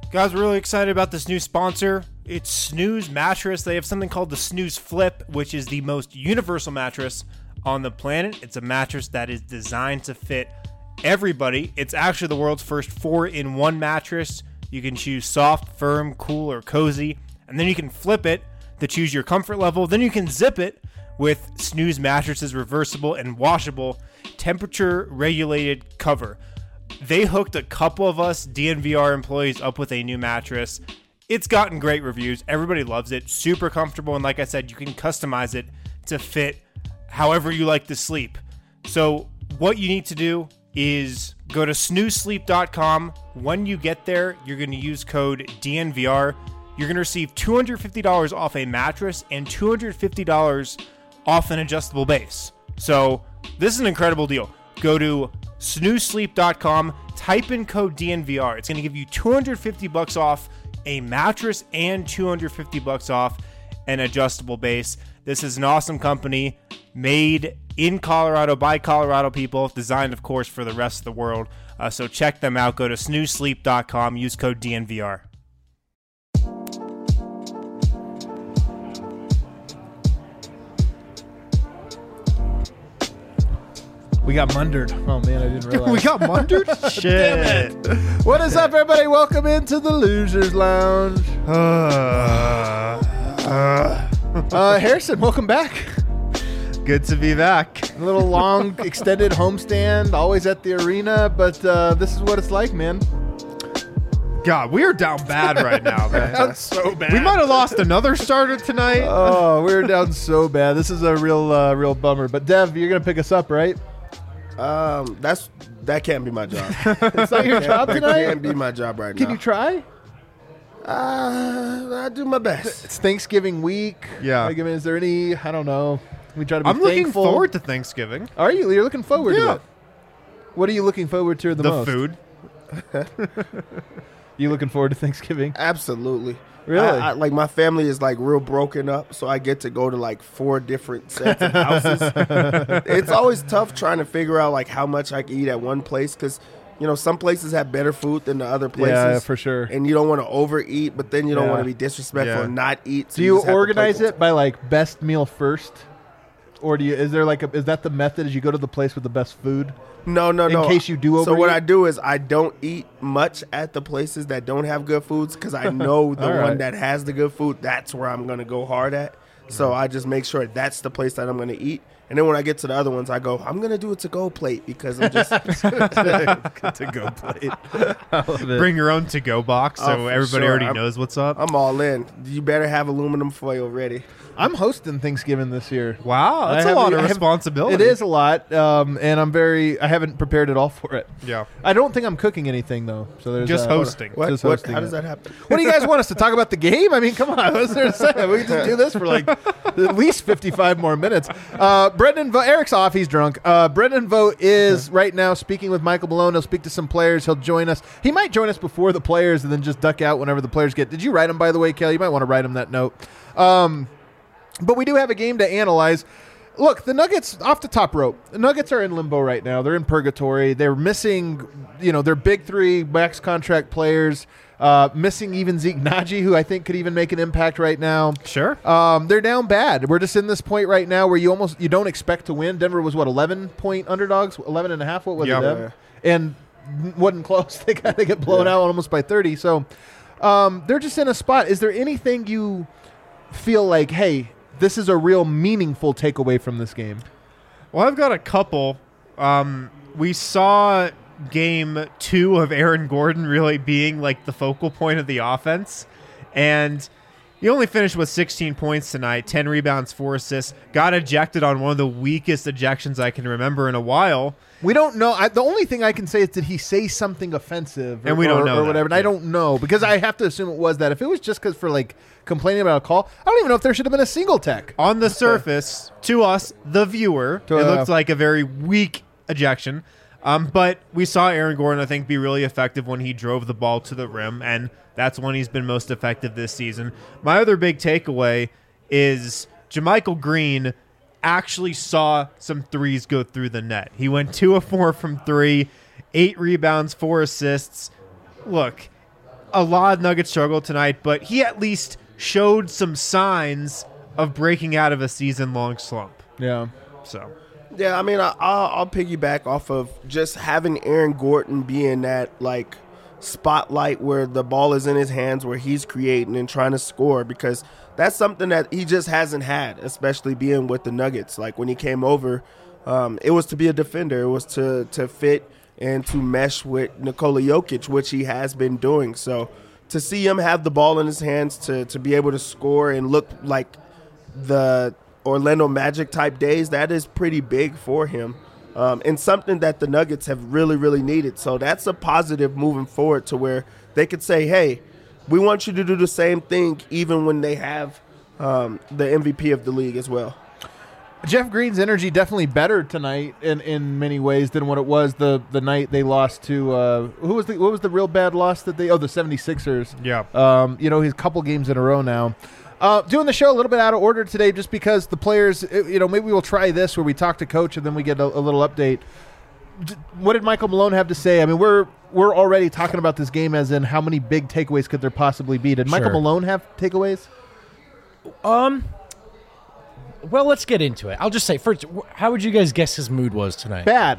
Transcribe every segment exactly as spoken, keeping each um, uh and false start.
Guys, we're really excited about this new sponsor. It's Snooze Mattress. They have something called the Snooze Flip, which is the most universal mattress on the planet. It's a mattress that is designed to fit everybody. It's actually the world's first four-in-one mattress. You can choose soft, firm, cool, or cozy, and then you can flip it to choose your comfort level. Then you can zip it with Snooze Mattress's reversible and washable temperature-regulated cover. They hooked a couple of us D N V R employees up with a new mattress. It's gotten great reviews. Everybody loves it. Super comfortable. And like I said, you can customize it to fit however you like to sleep. So what you need to do is go to snooze sleep dot com. When you get there, you're going to use code D N V R. You're going to receive two hundred fifty dollars off a mattress and two hundred fifty dollars off an adjustable base. So this is an incredible deal. Go to snooze sleep dot com, type in code D N V R. It's going to give you two hundred fifty bucks off a mattress and two hundred fifty bucks off an adjustable base. This is an awesome company made in Colorado by Colorado people, designed, of course, for the rest of the world. Uh, so check them out. Go to snooze sleep dot com, use code D N V R. We got mundered. Oh, man, I didn't realize. We got mundered? Shit. Damn it. What is up, everybody? Welcome into the Losers Lounge. Uh, uh. Uh, Harrison, welcome back. Good to be back. A little long, extended homestand, always at the arena, but uh, this is what it's like, man. God, we are down bad right now, man. That's so bad. We might have lost another starter tonight. Oh, we're down so bad. This is a real, uh, real bummer. But Dev, you're gonna pick us up, right? Um, that's that can't be my job. It's not your job That tonight. can't be my job right Can now. you try? Uh, I do my best. It's Thanksgiving week. Yeah. Like, I mean, is there any? I don't know. We try to be I'm looking thankful. forward to Thanksgiving. Are you? You're looking forward Yeah. to it. What are you looking forward to the, The most? food. You looking forward to Thanksgiving? Absolutely. Really? I, I, like my family is like real broken up, so I get to go to like four different sets of houses. It's always tough trying to figure out like how much I can eat at one place because, you know, some places have better food than the other places. Yeah, for sure. And you don't want to overeat, but then you don't Yeah. want to be disrespectful Yeah. and not eat. So Do you just have to organize play- it by like best meal first, or do you? Is there like a? Is that the method? Is you go to the place with the best food? No, no, in no. case you do So what overeat? I do is I don't eat much at the places that don't have good foods because I know the All one right. that has the good food, that's where I'm going to go hard at. So I just make sure that's the place that I'm going to eat. And then when I get to the other ones, I go, I'm going to do a to-go plate because I'm just To go plate. Bring your own to-go box so Oh, for everybody sure. already I'm- knows what's up. I'm all in. You better have aluminum foil ready. I'm hosting Thanksgiving this year. Wow, that's I a have- lot of I have- responsibility. It is a lot, um, and I'm very. I haven't prepared at all for it. Yeah. I don't think I'm cooking anything though. So there's Just uh, hosting. What? Just what? hosting How it. does that happen? What do you guys want us to talk about the game? I mean, come on. What's there to say? We can just do this for like at least fifty-five more minutes. Uh, Brendan Vogt, Eric's off. He's drunk. Uh, Brendan Vogt is right now speaking with Michael Malone. He'll speak to some players. He'll join us. He might join us before the players and then just duck out whenever the players get. Did you write him, by the way, Kelly? You might want to write him that note. Um, but we do have a game to analyze. Look, the Nuggets off the top rope. The Nuggets are in limbo right now. They're in purgatory. They're missing, you know, their big three max contract players. Uh, missing even Zeke Naji, who I think could even make an impact right now. Sure. Um, they're down bad. We're just in this point right now where you almost you don't expect to win. Denver was what eleven point underdogs, eleven and a half. What was Yeah. it? Dev? And wasn't close. They got they get blown Yeah. out almost by thirty. So um, they're just in a spot. Is there anything you feel like, hey, this is a real meaningful takeaway from this game? Well, I've got a couple. Um, we saw game two of Aaron Gordon really being like the focal point of the offense. And he only finished with sixteen points tonight, ten rebounds, four assists. Got ejected on one of the weakest ejections I can remember in a while. We don't know. I, the only thing I can say is did he say something offensive or, And we don't or, know or that. whatever. And I Yeah. don't know because I have to assume it was that. If it was just because for like complaining about a call, I don't even know if there should have been a single tech. On the surface, to us, the viewer, To, it uh, looked like a very weak ejection. Um, but we saw Aaron Gordon, I think, be really effective when he drove the ball to the rim, and that's when he's been most effective this season. My other big takeaway is JaMychal Green actually saw some threes go through the net. He went two of four from three, eight rebounds, four assists. Look, a lot of Nuggets struggled tonight, but he at least showed some signs of breaking out of a season-long slump. Yeah. So, Yeah, I mean, I, I'll, I'll piggyback off of just having Aaron Gordon be in that, like, spotlight where the ball is in his hands, where he's creating and trying to score, because that's something that he just hasn't had, especially being with the Nuggets. Like, when he came over, um, it was to be a defender. It was to, to fit and to mesh with Nikola Jokic, which he has been doing. So to see him have the ball in his hands, to, to be able to score and look like the Orlando Magic type days, that is pretty big for him. Um, and something that the Nuggets have really, really needed. So that's a positive moving forward, to where they could say, hey, we want you to do the same thing even when they have um, the M V P of the league as well. Jeff Green's energy definitely better tonight in, in many ways than what it was the, the night they lost to uh, who was the what was the real bad loss that they oh the seventy-sixers. Yeah. Um, you know, he's a couple games in a row now. Uh, doing the show a little bit out of order today just because the players, you know, maybe we'll try this where we talk to coach and then we get a, a little update. D- what did Michael Malone have to say? I mean, we're we're already talking about this game as in how many big takeaways could there possibly be. Did Michael Sure. Malone have takeaways? Um. Well, let's get into it. I'll just say first, wh- how would you guys guess his mood was tonight? Bad.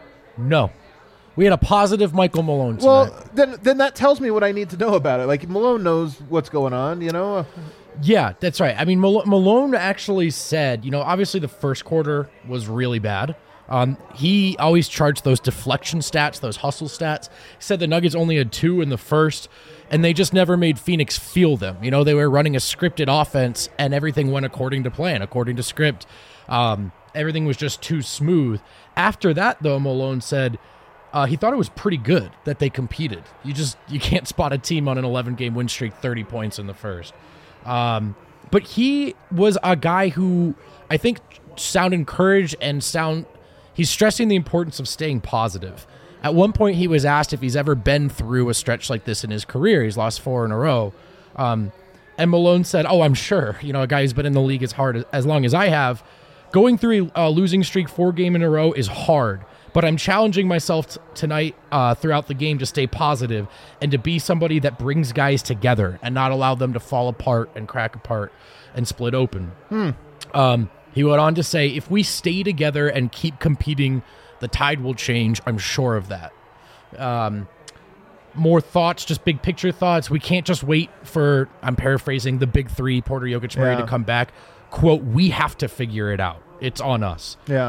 No, we had a positive Michael Malone tonight. Well, then then that tells me what I need to know about it. Like, Malone knows what's going on, you know? Yeah, that's right. I mean, Mal- Malone actually said, you know, obviously the first quarter was really bad. Um, he always charged those deflection stats, those hustle stats. He said the Nuggets only had two in the first, and they just never made Phoenix feel them. You know, they were running a scripted offense, and everything went according to plan, according to script. Um, everything was just too smooth. After that, though, Malone said uh, he thought it was pretty good that they competed. You just you can't spot a team on an eleven-game win streak, thirty points in the first. Um, but he was a guy who I think sound encouraged and sound. He's stressing the importance of staying positive. At one point, he was asked if he's ever been through a stretch like this in his career. He's lost four in a row. Um, and Malone said, oh, I'm sure. You know, a guy who's been in the league as hard as, as long as I have. Going through a losing streak four game in a row is hard. But I'm challenging myself t- tonight uh, throughout the game to stay positive and to be somebody that brings guys together and not allow them to fall apart and crack apart and split open. Hmm. Um, he went on to say, if we stay together and keep competing, the tide will change. I'm sure of that. Um, more thoughts, just big picture thoughts. We can't just wait for, I'm paraphrasing, the big three, Porter, Jokic, Murray, Yeah. to come back. Quote, we have to figure it out. It's on us. Yeah.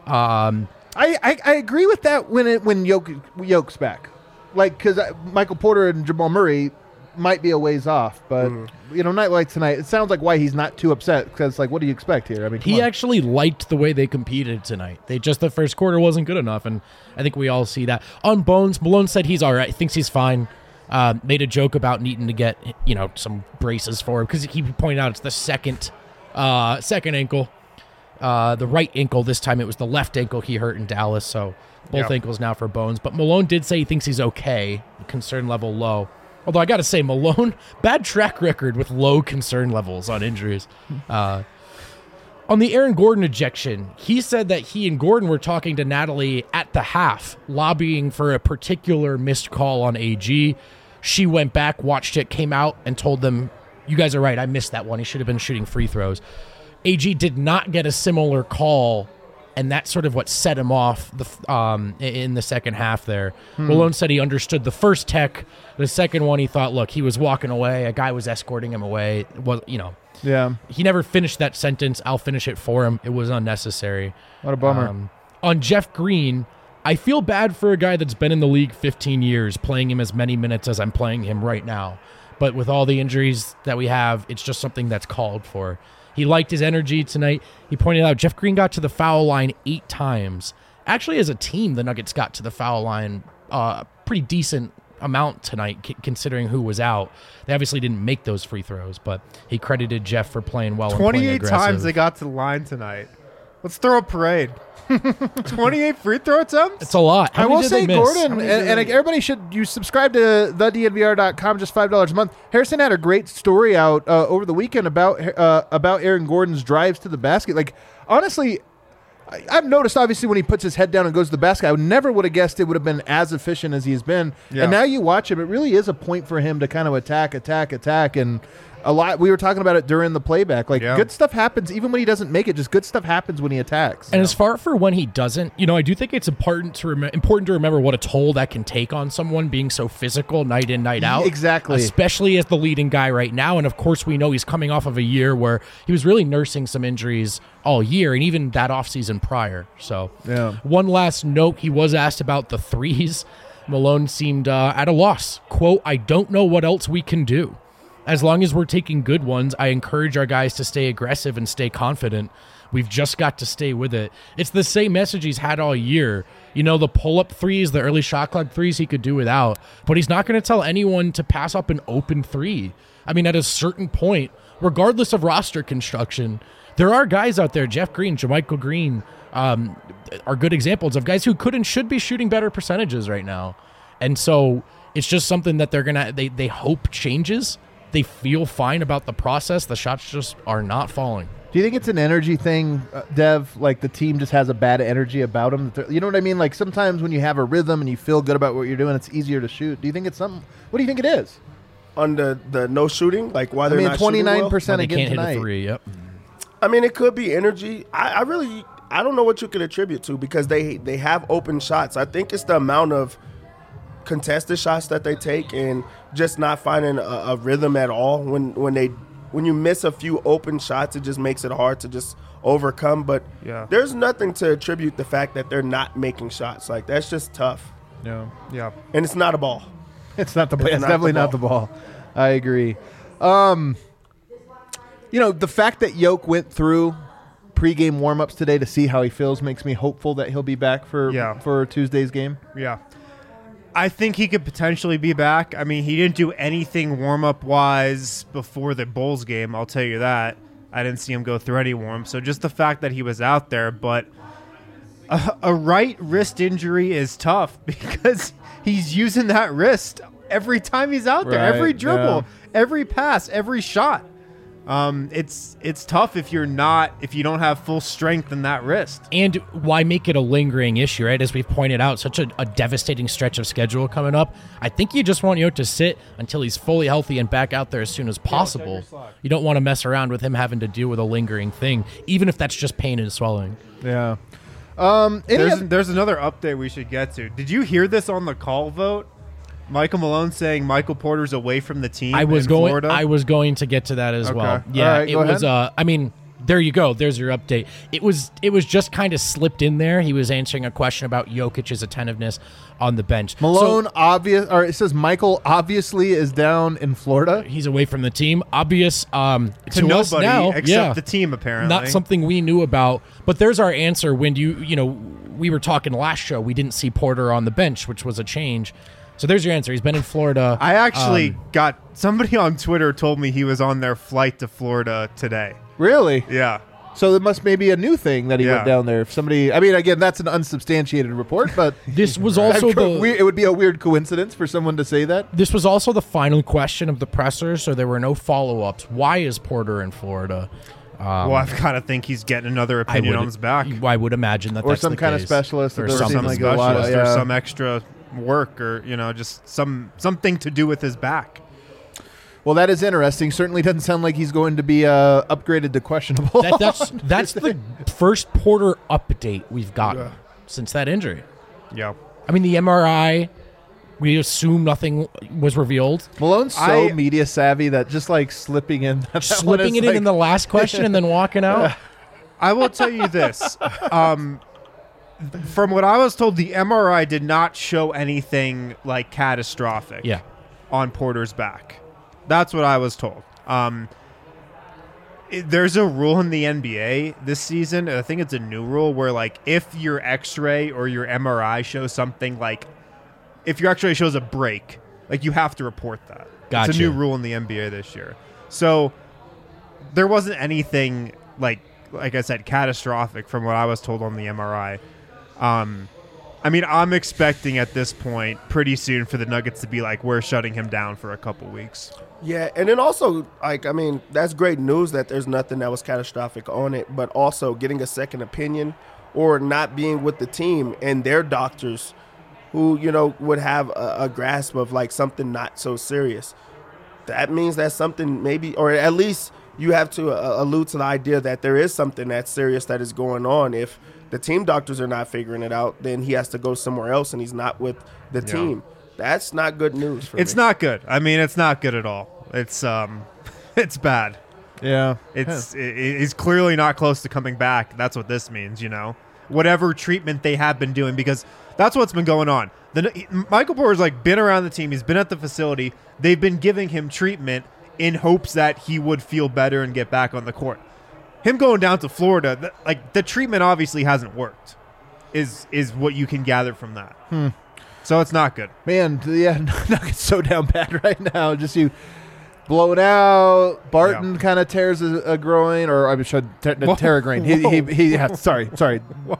Um, I, I, I agree with that when it when Yoke, Yoke's back. Like, because Michael Porter and Jamal Murray might be a ways off, but, Mm. you know, night like tonight, it sounds like why he's not too upset, because, like, what do you expect here? I mean, come He on. actually liked the way they competed tonight. They just the first quarter wasn't good enough, and I think we all see that. On Bones, Malone said he's all right, thinks he's fine. Uh, made a joke about needing to get you know some braces for him because he pointed out it's the second uh, second ankle, uh, the right ankle this time. It was the left ankle he hurt in Dallas, so both Yeah. ankles now for Bones. But Malone did say he thinks he's okay, concern level low. Although I got to say, Malone, bad track record with low concern levels on injuries. Uh, on the Aaron Gordon ejection, he said that he and Gordon were talking to Natalie at the half, lobbying for a particular missed call on A G. She went back, watched it, came out, and told them, you guys are right, I missed that one. He should have been shooting free throws. A G did not get a similar call, and that's sort of what set him off the um, in the second half there. Hmm. Malone said he understood the first tech. The second one, he thought, look, he was walking away. A guy was escorting him away. It was, you know, Yeah. he never finished that sentence. I'll finish it for him. It was unnecessary. What a bummer. Um, on Jeff Green, I feel bad for a guy that's been in the league fifteen years, playing him as many minutes as I'm playing him right now. But with all the injuries that we have, it's just something that's called for. He liked his energy tonight. He pointed out Jeff Green got to the foul line eight times. Actually, as a team, the Nuggets got to the foul line uh, pretty decent amount tonight, c- considering who was out. They obviously didn't make those free throws, but he credited Jeff for playing well and playing twenty-eight aggressive. times they got to the line tonight. Let's throw a parade. twenty-eight free throw attempts? It's a lot. How I many will did say, they miss? Gordon, How and, many and did like, they- everybody should you subscribe to the D N V R dot com, just five dollars a month. Harrison had a great story out uh, over the weekend about uh, about Aaron Gordon's drives to the basket. Like, honestly, I, I've noticed, obviously, when he puts his head down and goes to the basket, I would never would have guessed it would have been as efficient as he's been. Yeah. And now you watch him, it really is a point for him to kind of attack, attack, attack, and a lot. We were talking about it during the playback. Like, Yeah. good stuff happens even when he doesn't make it. Just good stuff happens when he attacks. And as far for when he doesn't, you know, I do think it's important to rem- important to remember what a toll that can take on someone being so physical night in, night out. Exactly. Especially as the leading guy right now. And of course, we know he's coming off of a year where he was really nursing some injuries all year and even that offseason prior. So, Yeah. one last note, he was asked about the threes. Malone seemed uh, at a loss. Quote, I don't know what else we can do. As long as we're taking good ones, I encourage our guys to stay aggressive and stay confident. We've just got to stay with it. It's the same message he's had all year. You know, the pull-up threes, the early shot clock threes he could do without. But he's not going to tell anyone to pass up an open three. I mean, at a certain point, regardless of roster construction, there are guys out there, Jeff Green, JaMychal Green, um, are good examples of guys who could and should be shooting better percentages right now. And so it's just something that they're going to, they they hope changes. They feel fine about the process. The shots just are not falling. Do you think it's an energy thing, uh, Dev? Like the team just has a bad energy about them? You know what I mean? Like sometimes when you have a rhythm and you feel good about what you're doing, it's easier to shoot. Do you think it's something? What do you think it is? On the, the no shooting, like why I they're mean, not shooting well? twenty-nine percent They again can't hit tonight. a three. Yep. I mean, it could be energy. I, I really, I don't know what you could attribute to because they they have open shots. I think it's the amount of contested shots that they take and just not finding a, a rhythm at all. When when they when you miss a few open shots, it just makes it hard to just overcome. But Yeah. there's nothing to attribute the fact that they're not making shots. Like that's just tough, No, Yeah. and it's not a ball. it's not the. It's, It's not definitely the not the ball. I agree. Um, you know, the fact that Yoke went through pregame warmups today to see how he feels makes me hopeful that he'll be back for Yeah. for Tuesday's game. Yeah. I think he could potentially be back. I mean, he didn't do anything warm-up wise before the Bulls game, I'll tell you that. I didn't see him go through any warm. So just the fact that he was out there, but a, a right wrist injury is tough because he's using that wrist every time he's out there, Right, every dribble, yeah. every pass, every shot. Um, it's it's tough if you're not if you don't have full strength in that wrist. And why make it a lingering issue, right? As we've pointed out, such a, a devastating stretch of schedule coming up. I think you just want Yoke to sit until he's fully healthy and back out there as soon as possible. You don't want to mess around with him having to deal with a lingering thing, even if that's just pain and swelling. Yeah. Um, any There's oth- there's another update we should get to. Did you hear this on the call vote? Michael Malone saying Michael Porter's away from the team. I was in going. Florida? I was going to get to that as Okay. well. Yeah, All right, it go was. ahead. Uh, I mean, there you go. There's your update. It was. It was just kind of slipped in there. He was answering a question about Jokic's attentiveness on the bench. Malone So obvious, or it says Michael obviously is down in Florida. he's away from the team. Obvious um, to, to us nobody now. except yeah. the team apparently. Not something we knew about, but there's our answer. When you you know we were talking last show, we didn't see Porter on the bench, which was a change. So there's your answer. He's been in Florida. I actually Um, got somebody on Twitter told me he was on their flight to Florida today. Really? Yeah. So it must maybe a new thing that he Yeah. went down there. If somebody, I mean, again, that's an unsubstantiated report, but This was also I'm co- the we- it would be a weird coincidence for someone to say that. this was also the final question of the presser, so there were no follow ups. Why is Porter in Florida? Um, Well, I've got to think he's getting another I opinion would, on his back. I would imagine that Or that's some the kind of case. specialist that or does Or seem some something. like a lot of- specialist or yeah. some extra work or, you know, just some something to do with his back. Well, that is interesting. Certainly doesn't sound like he's going to be uh, upgraded to questionable. That, that's that's the first Porter update we've gotten since that injury. Yeah. I mean, the M R I, we assume nothing was revealed. Malone's so I- media savvy that just like slipping in, that one Slipping is it in like- in the last question and then walking out. I will tell you this. Um, from what I was told, the M R I did not show anything like catastrophic Yeah. on Porter's back. That's what I was told. Um, it- there's a rule in the N B A this season. I think it's a new rule where, like, if your X-ray or your M R I shows something like, if your X-ray shows a break, like, you have to report that. It's Gotcha. a new rule in the N B A this year. So there wasn't anything like, like I said, catastrophic from what I was told on the M R I. Um, I mean, I'm expecting at this point pretty soon for the Nuggets to be like, we're shutting him down for a couple weeks. Yeah, and then also, like, I mean, that's great news that there's nothing that was catastrophic on it, but also getting a second opinion or not being with the team and their doctors who, you know, would have a, a grasp of like something not so serious. That means that something maybe, or at least you have to uh, allude to the idea that there is something that's serious that is going on. If the team doctors are not figuring it out, then he has to go somewhere else and he's not with the Yeah. team. That's not good news for It's me. not good. I mean, it's not good at all. It's um, it's bad. Yeah. It's it, he's clearly not close to coming back. That's what this means, you know. Whatever treatment they have been doing, because that's what's been going on. The Michael Porter's like been around the team. He's been at the facility. They've been giving him treatment in hopes that he would feel better and get back on the court. Him going down to Florida, th- like the treatment obviously hasn't worked. Is is what you can gather from that. Hmm. So it's not good. Man, yeah, Nuggets so down bad right now. Just you blown out. Barton Yeah. kind of tears a, a groin, or I should te- Whoa. tear a groin. He, he, he, yeah, sorry, sorry.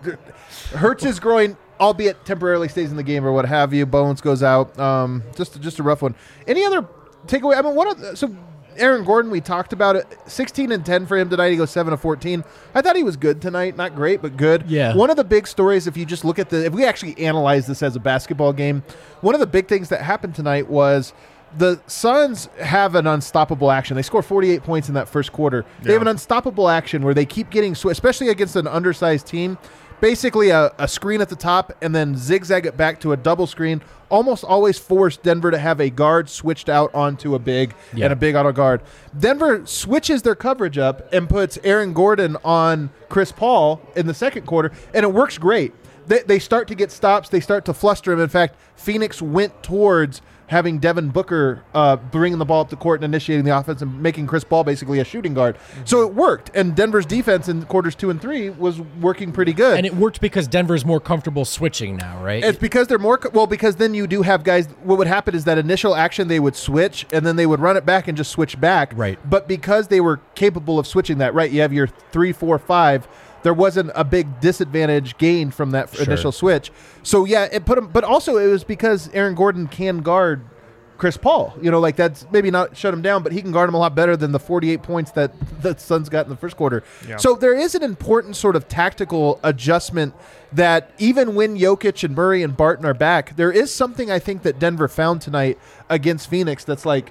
Hurts his groin, albeit temporarily stays in the game or what have you. Bones goes out. Um, just just a rough one. Any other takeaway? I mean, what? Are, so Aaron Gordon, we talked about it. sixteen and ten for him tonight. He goes seven of fourteen. I thought he was good tonight. Not great, but good. Yeah. One of the big stories, if you just look at the, if we actually analyze this as a basketball game, one of the big things that happened tonight was the Suns have an unstoppable action. They score forty-eight points in that first quarter. They Yeah. have an unstoppable action where they keep getting, sw- especially against an undersized team, basically a, a screen at the top and then zigzag it back to a double screen. Almost always force Denver to have a guard switched out onto a big Yeah. and a big auto guard. Denver switches their coverage up and puts Aaron Gordon on Chris Paul in the second quarter, and it works great. They, they start to get stops. They start to fluster him. In fact, Phoenix went towards having Devin Booker uh, bringing the ball up the court and initiating the offense and making Chris Paul basically a shooting guard. Mm-hmm. So it worked, and Denver's defense in quarters two and three was working pretty good. And it worked because Denver's more comfortable switching now, right? It's because they're more co- well because then you do have guys. What would happen is that initial action they would switch and then they would run it back and just switch back. Right. But because they were capable of switching that, right? You have your three, four, five. There wasn't a big disadvantage gained from that Sure. initial switch. So yeah, it put him. But also it was because Aaron Gordon can guard Chris Paul. You know, like that's maybe not shut him down, but he can guard him a lot better than the forty-eight points that the Suns got in the first quarter. Yeah. So there is an important sort of tactical adjustment that even when Jokic and Murray and Barton are back, there is something I think that Denver found tonight against Phoenix that's like,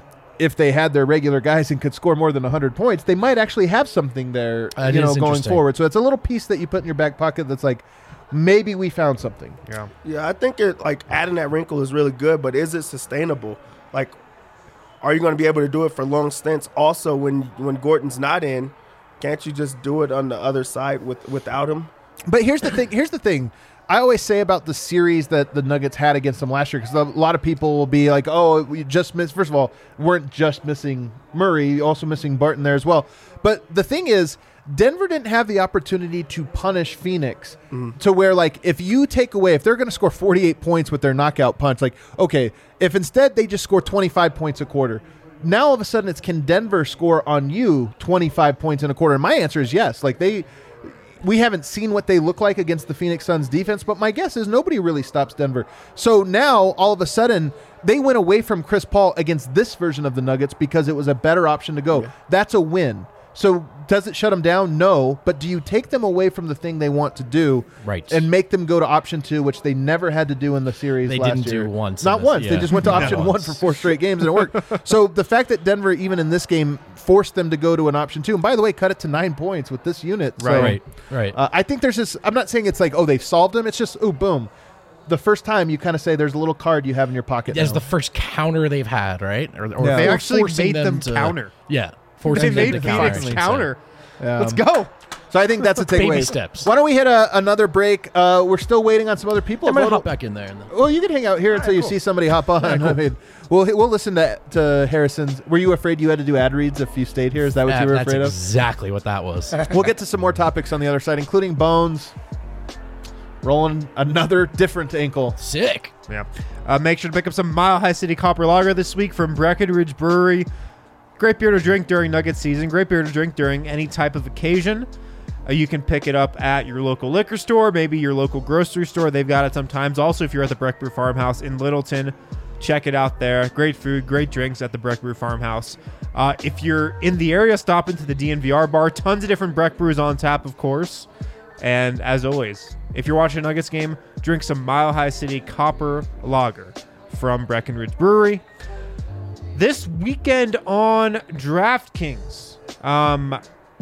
if they had their regular guys and could score more than one hundred points, they might actually have something there, That you know, is going interesting. forward. So it's a little piece that you put in your back pocket that's like, maybe we found something. Yeah. Yeah, I think it like adding that wrinkle is really good, but is it sustainable? Like, are you going to be able to do it for long stints? Also, when when Gordon's not in, can't you just do it on the other side with without him? But here's the thing. Here's the thing. I always say about the series that the Nuggets had against them last year, because a lot of people will be like, "Oh, we just missed." First of all, weren't just missing Murray, also missing Barton there as well. But the thing is, Denver didn't have the opportunity to punish Phoenix to where, like, if you take away, if they're going to score forty-eight points with their knockout punch, like, okay, if instead they just score twenty-five points a quarter, now all of a sudden it's, can Denver score on you twenty-five points in a quarter? And my answer is yes. Like, they. We haven't seen what they look like against the Phoenix Suns defense, but my guess is nobody really stops Denver. So now, all of a sudden, they went away from Chris Paul against this version of the Nuggets because it was a better option to go. Yeah. That's a win. So does it shut them down? No. But do you take them away from the thing they want to do Right. and make them go to option two, which they never had to do in the series They last didn't do year? once Not in this- once. They yeah. just went to Not option one once. for four straight games, and it worked. So the fact that Denver, even in this game, forced them to go to an option two, and by the way, cut it to nine points with this unit. So, Right, right. uh, I think there's this. I'm not saying it's like, oh, they've solved them. It's just, oh, boom. The first time you kind of say there's a little card you have in your pocket. That's now. the first counter they've had, right? Or, or Yeah. They or actually forcing made them to- counter. Yeah, They forcing them made to Phoenix counter. counter. Um, Let's go. So I think that's a takeaway. Baby steps. Why don't we hit a, another break? Uh, we're still waiting on some other people. I'm gonna Vote- hop back in there. And then. Well, you can hang out here until you see somebody hop on. I mean, we'll we'll listen to to Harrison's. Were you afraid you had to do ad reads if you stayed here? Is that what That- you were that's afraid of? exactly what that was. We'll get to some more topics on the other side, including Bones rolling another different ankle. Sick. Yeah. Uh, make sure to pick up some Mile High City Copper Lager this week from Breckenridge Brewery. Great beer to drink during Nugget season. Great beer to drink during any type of occasion. Uh, you can pick it up at your local liquor store, maybe your local grocery store. They've got it sometimes. Also, if you're at the Breck Brew Farmhouse in Littleton, check it out there. Great food, great drinks at the Breck Brew Farmhouse. Uh, if you're in the area, stop into the D N V R bar. Tons of different Breck Brews on tap, of course. And as always, if you're watching a Nuggets game, drink some Mile High City Copper Lager from Breckenridge Brewery. This weekend on DraftKings, um,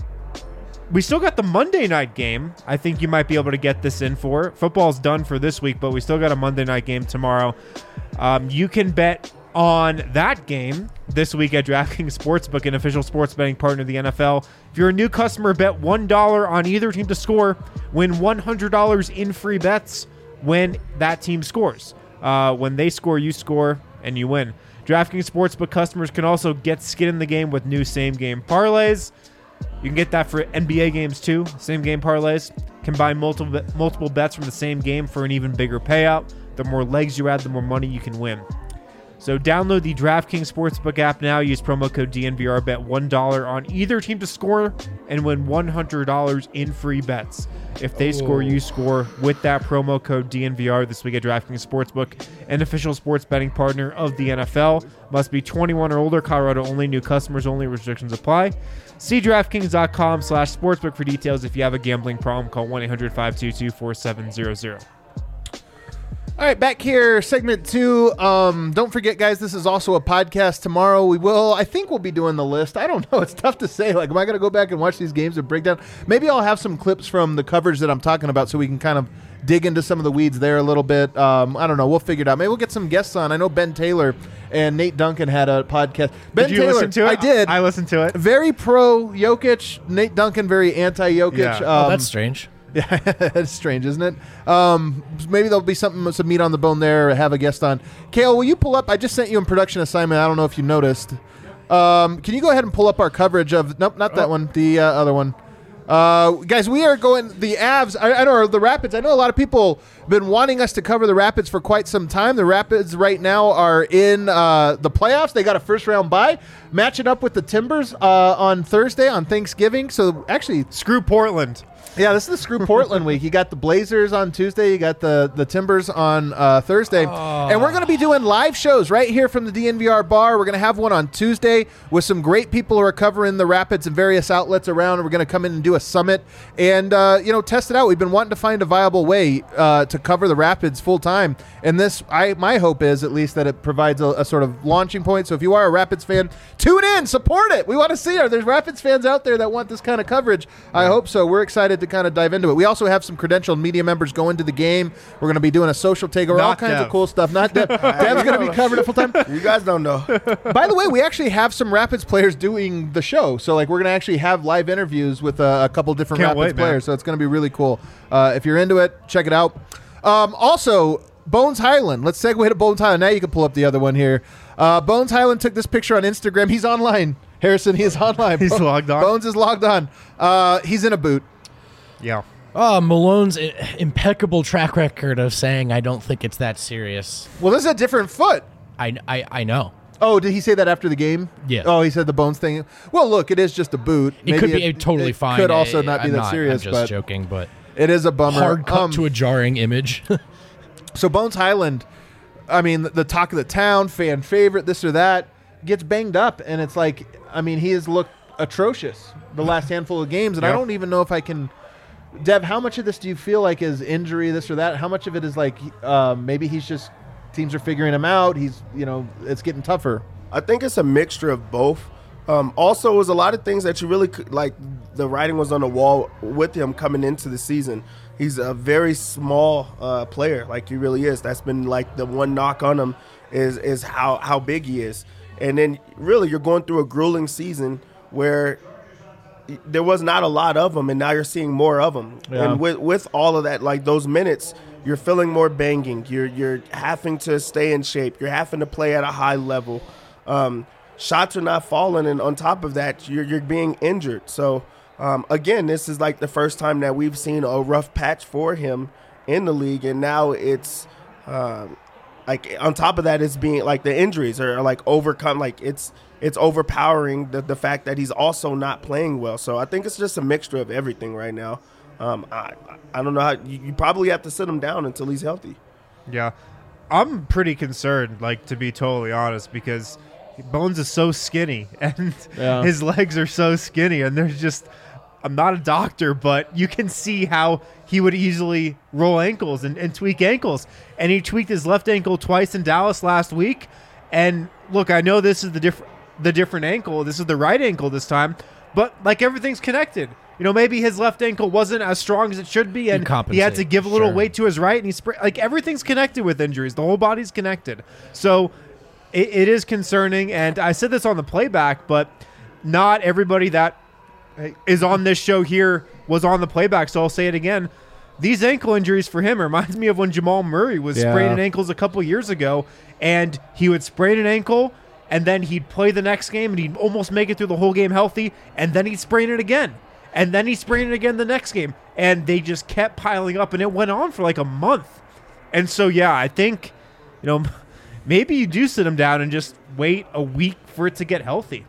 we still got the Monday night game. I think you might be able to get this in for. Football's done for this week, but we still got a Monday night game tomorrow. Um, you can bet on that game this week at DraftKings Sportsbook, an official sports betting partner of the N F L. If you're a new customer, bet one dollar on either team to score, win one hundred dollars in free bets when that team scores. Uh, when they score, you score, and you win. DraftKings Sportsbook customers can also get skin in the game with new same-game parlays. You can get that for N B A games too, same-game parlays. Combine multiple multiple bets from the same game for an even bigger payout. The more legs you add, the more money you can win. So download the DraftKings Sportsbook app now. Use promo code D N V R. Bet one dollar on either team to score and win one hundred dollars in free bets. If they oh. score, you score with that promo code D N V R this week at DraftKings Sportsbook, an official sports betting partner of the N F L. Must be twenty-one or older. Colorado only. New customers only. Restrictions apply. See DraftKings.com slash sportsbook for details. If you have a gambling problem, call one eight hundred five two two four seven zero zero. All right, back here, segment two. Um, don't forget, guys, this is also a podcast tomorrow. We will, I think we'll be doing the list. I don't know. It's tough to say. Like, am I going to go back and watch these games and break down? Maybe I'll have some clips from the coverage that I'm talking about so we can kind of dig into some of the weeds there a little bit. Um, I don't know. We'll figure it out. Maybe we'll get some guests on. I know Ben Taylor and Nate Duncan had a podcast. Ben did you Taylor, listen to it? I did. I listened to it. Very pro Jokic. Nate Duncan, very anti-Jokic. Yeah. Um, Oh, that's strange. Yeah, it's strange, isn't it? Um, maybe there'll be something, some meat on the bone there. Or have a guest on. Kale, will you pull up? I just sent you a production assignment. I don't know if you noticed. Um, can you go ahead and pull up our coverage of? Nope, not that Oh. one. The uh, other one. Uh, guys, we are going the Avs. I, I know or the Rapids. I know a lot of people have been wanting us to cover the Rapids for quite some time. The Rapids right now are in uh, the playoffs. They got a first round bye, matching up with the Timbers uh, on Thursday on Thanksgiving. So actually, Screw Portland. yeah, this is the Screw Portland week. You got the Blazers on Tuesday. You got the, the Timbers on uh, Thursday. Oh. And we're going to be doing live shows right here from the D N V R bar. We're going to have one on Tuesday with some great people who are covering the Rapids and various outlets around. We're going to come in and do a summit and, uh, you know, test it out. We've been wanting to find a viable way uh, to cover the Rapids full time. And this, I my hope is at least that it provides a, a sort of launching point. So if you are a Rapids fan, tune in, support it. We want to see it. There's Rapids fans out there that want this kind of coverage. I hope so. We're excited to kind of dive into it. We also have some credentialed media members going to the game. We're going to be doing a social takeover, all Not kinds Dev. of cool stuff. Not Dev. Dev's going to be covering it full time. You guys don't know. By the way, we actually have some Rapids players doing the show. So, like, we're going to actually have live interviews with uh, a couple different Can't Rapids wait, man. players. So it's going to be really cool. Uh, if you're into it, check it out. Um, also, Bones Highland. Let's segue to Bones Highland. Now you can pull up the other one here. Uh, Bones Highland took this picture on Instagram. He's online. Harrison, he is online. He's logged on. Bones is logged on. Uh, he's in a boot. Yeah. Oh, Malone's i- impeccable track record of saying, I don't think it's that serious. Well, this is a different foot. I, I, I know. Oh, did he say that after the game? Yeah. Oh, he said the Bones thing. Well, look, it is just a boot. It could be totally it fine. Could also I- not be I'm that serious, I'm just but joking, but it is a bummer. hard cut Um, to a jarring image. So Bones Highland, I mean, the, the talk of the town, fan favorite, this or that, gets banged up, and it's like, I mean, he has looked atrocious the last handful of games, and I Yep. don't even know if I can. Dev, how much of this do you feel like is injury, this or that? How much of it is like um, maybe he's just teams are figuring him out? He's, you know, it's getting tougher. I think it's a mixture of both. Um, also, it was a lot of things that you really could, like, the writing was on the wall with him coming into the season. He's a very small uh, player, like he really is. That's been like the one knock on him is is how, how big he is. And then really you're going through a grueling season where there was not a lot of them, and now you're seeing more of them. Yeah. And with with all of that, like those minutes, you're feeling more banging. You're you're having to stay in shape. You're having to play at a high level. Um, shots are not falling, and on top of that, you're you're being injured. So um, again, this is like the first time that we've seen a rough patch for him in the league, and now it's um, like on top of that, it's being like the injuries are like overcome. Like it's. It's overpowering the, the fact that he's also not playing well. So I think it's just a mixture of everything right now. Um, I I don't know how you, you probably have to sit him down until he's healthy. Yeah. I'm pretty concerned, like, to be totally honest, because Bones is so skinny and Yeah. his legs are so skinny, and there's just I'm not a doctor, but you can see how he would easily roll ankles and, and tweak ankles. And he tweaked his left ankle twice in Dallas last week. And look, I know this is the different the different ankle. This is the right ankle this time, but like everything's connected. You know, maybe his left ankle wasn't as strong as it should be, and he had to give a little sure. weight to his right, and he spra- like everything's connected with injuries. The whole body's connected. So it, it is concerning. And I said this on the playback, but not everybody that is on this show here was on the playback, so I'll say it again. These ankle injuries for him reminds me of when Jamal Murray was Yeah. spraining ankles a couple years ago, and he would sprain an ankle, and then he'd play the next game, and he'd almost make it through the whole game healthy, and then he'd sprain it again, and then he'd sprain it again the next game, and they just kept piling up, and it went on for like a month. And so, yeah, I think, you know, maybe you do sit him down and just wait a week for it to get healthy.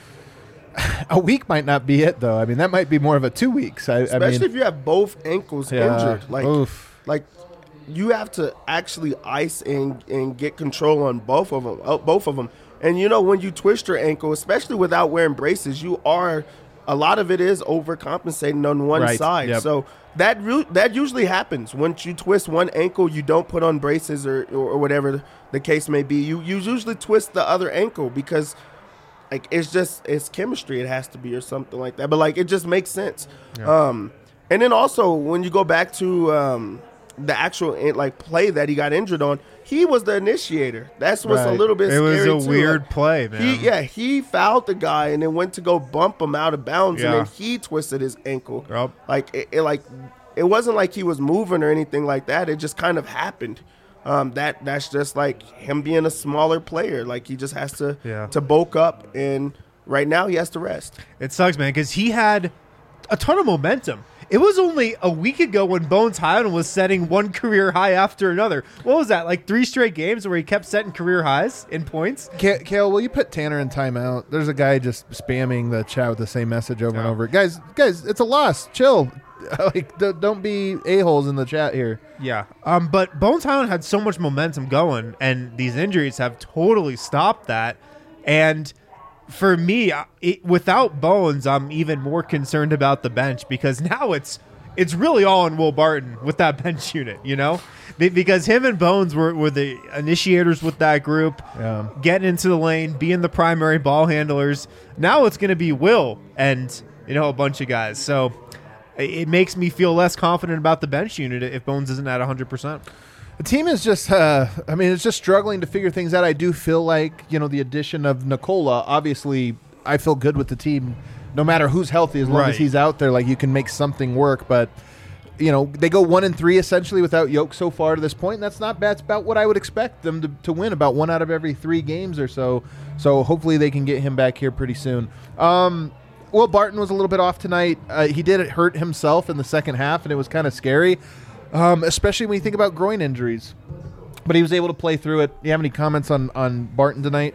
A week might not be it, though. I mean, that might be more of a two weeks. I, Especially I mean, if you have both ankles Yeah. injured. Like, Oof. like you have to actually ice and, and get control on both of them. Uh, both of them. And, you know, when you twist your ankle, especially without wearing braces, you are – a lot of it is overcompensating on one Right. side. Yep. So that re- that usually happens. Once you twist one ankle, you don't put on braces or, or, or whatever the case may be. You, you usually twist the other ankle because – like, it's just, it's chemistry, it has to be, or something like that. But, like, it just makes sense. Yeah. Um, and then also, when you go back to um, the actual, like, play that he got injured on, he was the initiator. That's what's a Right. little bit It was scary, a too. weird Like, play, man. He, yeah, he fouled the guy and then went to go bump him out of bounds, Yeah. and then he twisted his ankle. Yep. Like, it, it, like, it wasn't like he was moving or anything like that. It just kind of happened. Um, that that's just like him being a smaller player. Like, he just has to Yeah. to bulk up, and right now he has to rest. It sucks, man, because he had a ton of momentum. It was only a week ago when Bones Highland was setting one career high after another. What was that, like three straight games where he kept setting career highs in points? Ka- Kale, will you put Tanner in timeout? There's a guy just spamming the chat with the same message over and Yeah. over. Guys, guys, it's a loss. Chill. Like, d- don't be a-holes in the chat here. Yeah. Um, but Bones Highland had so much momentum going, and these injuries have totally stopped that. And for me, I- it, without Bones, I'm even more concerned about the bench, because now it's it's really all on Will Barton with that bench unit, you know? Be- Because him and Bones were, were the initiators with that group, Yeah. getting into the lane, being the primary ball handlers. Now it's going to be Will and, you know, a bunch of guys. So it it makes me feel less confident about the bench unit if Bones isn't at one hundred percent. The team is just, uh, I mean, it's just struggling to figure things out. I do feel like, you know, the addition of Nicola, obviously, I feel good with the team no matter who's healthy, as long Right. as he's out there, like, you can make something work. But, you know, they go one and three essentially without Yoke so far to this point. And that's not bad. That's about what I would expect them to, to win, about one out of every three games or so. So hopefully they can get him back here pretty soon. Um, Will Barton was a little bit off tonight. Uh, he did hurt himself in the second half, and it was kind of scary, um, especially when you think about groin injuries. But he was able to play through it. Do you have any comments on, on Barton tonight?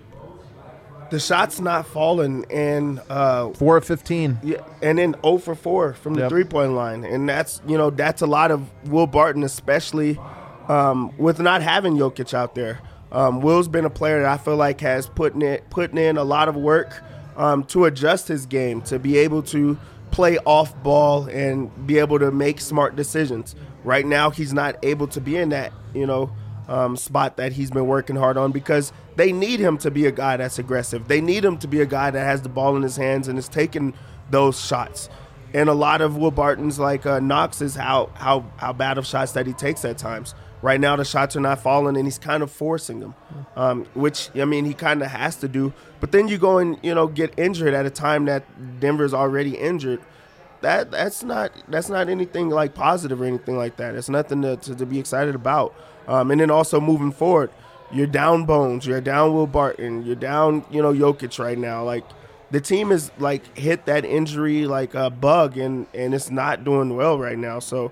The shot's not falling, and uh, four of fifteen. yeah, and then zero for four from the Yep. three-point line, and that's you know that's a lot of Will Barton, especially um, with not having Jokic out there. Um, Will's been a player that I feel like has putting it putting in a lot of work um, to adjust his game, to be able to play off ball and be able to make smart decisions. Right now, he's not able to be in that you know um, spot that he's been working hard on, because they need him to be a guy that's aggressive. They need him to be a guy that has the ball in his hands and is taking those shots. And a lot of Will Barton's like uh, knocks is how how how bad of shots that he takes at times. Right now, the shots are not falling, and he's kind of forcing them, um, which, I mean, he kind of has to do. But then you go and, you know, get injured at a time that Denver's already injured. That that's not that's not anything like positive or anything like that. It's nothing to, to, to be excited about. Um, and then also moving forward, you're down Bones, you're down Will Barton, you're down, you know, Jokic right now. Like, the team is like hit that injury like a bug, and and it's not doing well right now. So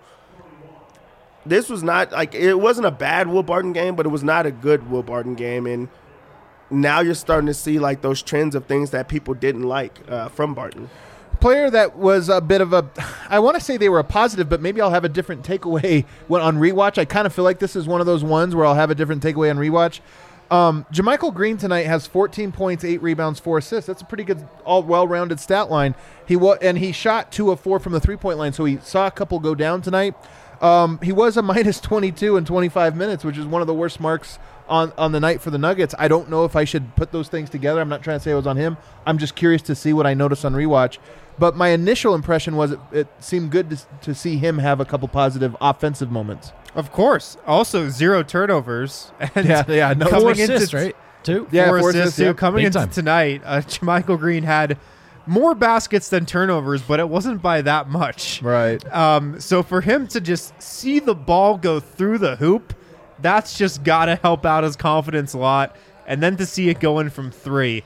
this was not like it wasn't a bad Will Barton game, but it was not a good Will Barton game. And now you're starting to see like those trends of things that people didn't like uh, from Barton. Player that was a bit of a, I want to say they were a positive, but maybe I'll have a different takeaway when on rewatch. I kind of feel like this is one of those ones where I'll have a different takeaway on rewatch. Um, JaMychal Green tonight has fourteen points, eight rebounds, four assists. That's a pretty good, all well-rounded stat line. He wa- and he shot two of four from the three-point line, so he saw a couple go down tonight. Um, he was a minus twenty-two in twenty-five minutes, which is one of the worst marks on, on the night for the Nuggets. I don't know if I should put those things together. I'm not trying to say it was on him. I'm just curious to see what I noticed on rewatch. But my initial impression was it, it seemed good to, to see him have a couple positive offensive moments. Of course. Also, zero turnovers. And Yeah, yeah, no- coming Four into assists, t- right? Two? Yeah, four four assists. assists, too. yeah. Coming Big into time. tonight, uh, JaMychal Green had more baskets than turnovers, but it wasn't by that much. Right. Um, so for him to just see the ball go through the hoop, that's just got to help out his confidence a lot. And then to see it go in from three,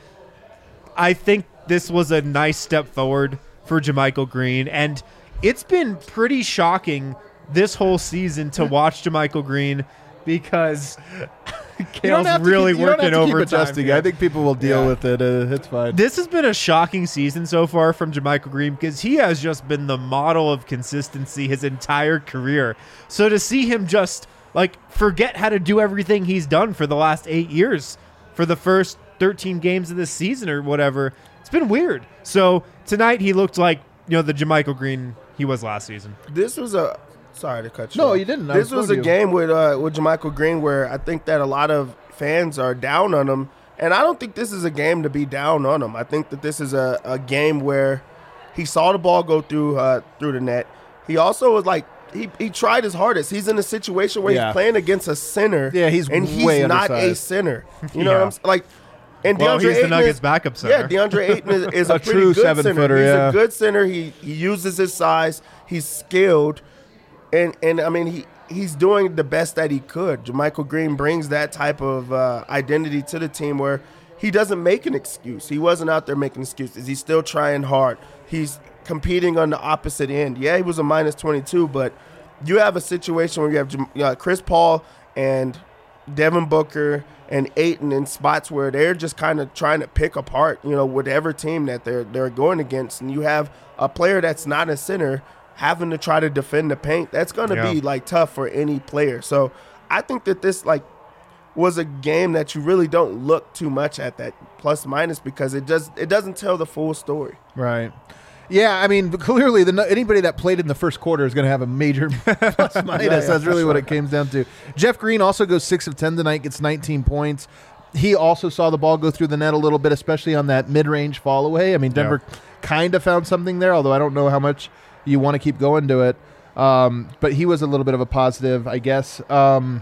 I think this was a nice step forward for JaMychal Green. And it's been pretty shocking this whole season to watch JaMychal Green because Kale's really keep, you don't working have to keep overtime. adjusting. here. I think people will deal Yeah. with it. Uh, it's fine. This has been a shocking season so far from JaMychal Green because he has just been the model of consistency his entire career. So to see him just like forget how to do everything he's done for the last eight years for the first thirteen games of this season or whatever, it's been weird. So tonight he looked like, you know, the JaMychal Green he was last season. This was a sorry to cut you. No, off. you didn't. I This was was a told you. game with uh, with JaMychal Green where I think that a lot of fans are down on him, and I don't think this is a game to be down on him. I think that this is a, a game where he saw the ball go through uh, through the net. He also was like he, he tried his hardest. He's in a situation where Yeah. he's playing against a center. Yeah, he's and he's way not a undersized. center. You know Yeah. what I'm saying? Like, and Well, DeAndre he's the Ayton Nuggets is, backup Yeah, center. DeAndre Ayton is, is a, A pretty true good center. seven-footer, He's yeah. a good center. He he uses his size. He's skilled, and and I mean he. He's doing the best that he could. JaMychal Green brings that type of uh, identity to the team where he doesn't make an excuse. He wasn't out there making excuses. He's still trying hard. He's competing on the opposite end. Yeah, he was a minus twenty-two, but you have a situation where you have Jam- uh, Chris Paul and Devin Booker and Ayton in spots where they're just kind of trying to pick apart, you know, whatever team that they're they're going against. And you have a player that's not a center having to try to defend the paint. That's going to Yeah. be like tough for any player. So I think that this like was a game that you really don't look too much at that plus minus because it does it doesn't tell the full story. Right. Yeah, I mean, clearly, the anybody that played in the first quarter is going to have a major plus minus. yeah, That's really for what sure. it comes down to. Jeff Green also goes six of ten tonight, gets nineteen points. He also saw the ball go through the net a little bit, especially on that mid-range fall away. I mean, Denver kind of found something there, although I don't know how much you want to keep going to it. Um, but he was a little bit of a positive, I guess. Um,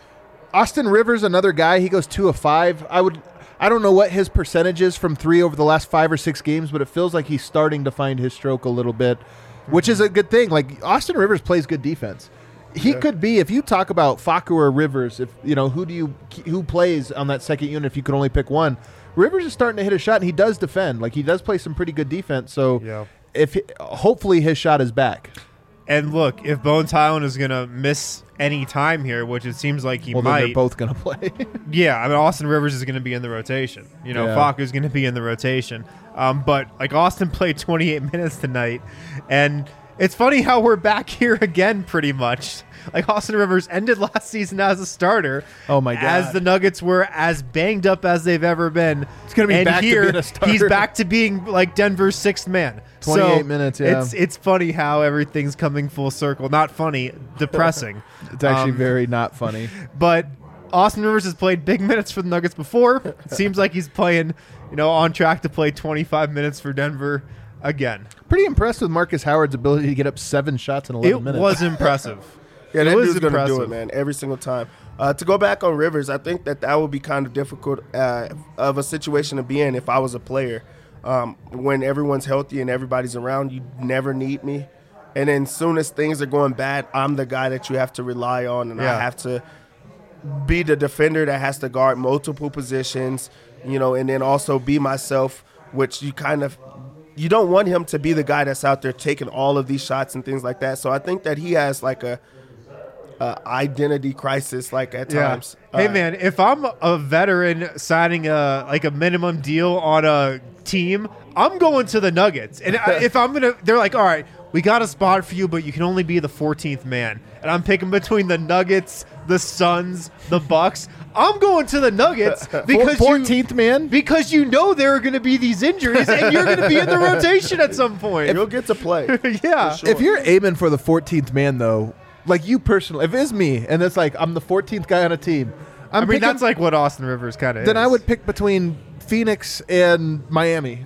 Austin Rivers, another guy, he goes two of five. I would, I don't know what his percentage is from three over the last five or six games, but it feels like he's starting to find his stroke a little bit, which is a good thing. Like Austin Rivers plays good defense. He could be, if you talk about Facu or Rivers, if you know who do you who plays on that second unit, if you could only pick one, Rivers is starting to hit a shot, and he does defend. Like he does play some pretty good defense. So Yeah. if he, hopefully his shot is back. And look, if Bones Highland is going to miss any time here, which it seems like he Well, then might, they're both going to play. yeah, I mean, Austin Rivers is going to be in the rotation. You know, Yeah. Facu's going to be in the rotation. Um, but, like, Austin played twenty-eight minutes tonight, and it's funny how we're back here again pretty much. Like, Austin Rivers ended last season as a starter. Oh, my God. As the Nuggets were as banged up as they've ever been. It's gonna be and back to here, being a starter. he's back to being, like, Denver's sixth man. twenty-eight So, minutes, yeah. It's, it's funny how everything's coming full circle. Not funny, depressing. It's actually Um, very not funny. But Austin Rivers has played big minutes for the Nuggets before. It seems like he's playing, you know, on track to play twenty-five minutes for Denver again. Pretty impressed with Marcus Howard's ability to get up seven shots in eleven It minutes. was impressive. Yeah, It that was dude's going to do impressive. it, man, every single time. Uh, to go back on Rivers, I think that that would be kind of difficult uh, of a situation to be in if I was a player. Um, when everyone's healthy and everybody's around, you never need me. And then soon as things are going bad, I'm the guy that you have to rely on, and Yeah. I have to be the defender that has to guard multiple positions, you know, and then also be myself, which you kind of you don't want him to be the guy that's out there taking all of these shots and things like that. So I think that he has like a, a identity crisis, like at times. Hey Uh, man, if I'm a veteran signing a like a minimum deal on a team, I'm going to the Nuggets. And I- if I'm gonna, they're like, all right, we got a spot for you, but you can only be the fourteenth man. And I'm picking between the Nuggets, the Suns, the Bucks. I'm going to the Nuggets because fourteenth you, man. because you know there are going to be these injuries and you're going to be in the rotation at some point. You'll get to play. yeah. For sure. If you're aiming for the fourteenth man, though, like you personally, if it's me and it's like I'm the fourteenth guy on a team, I'm I mean, picking, that's like what Austin Rivers kind of is. then I would pick between Phoenix and Miami.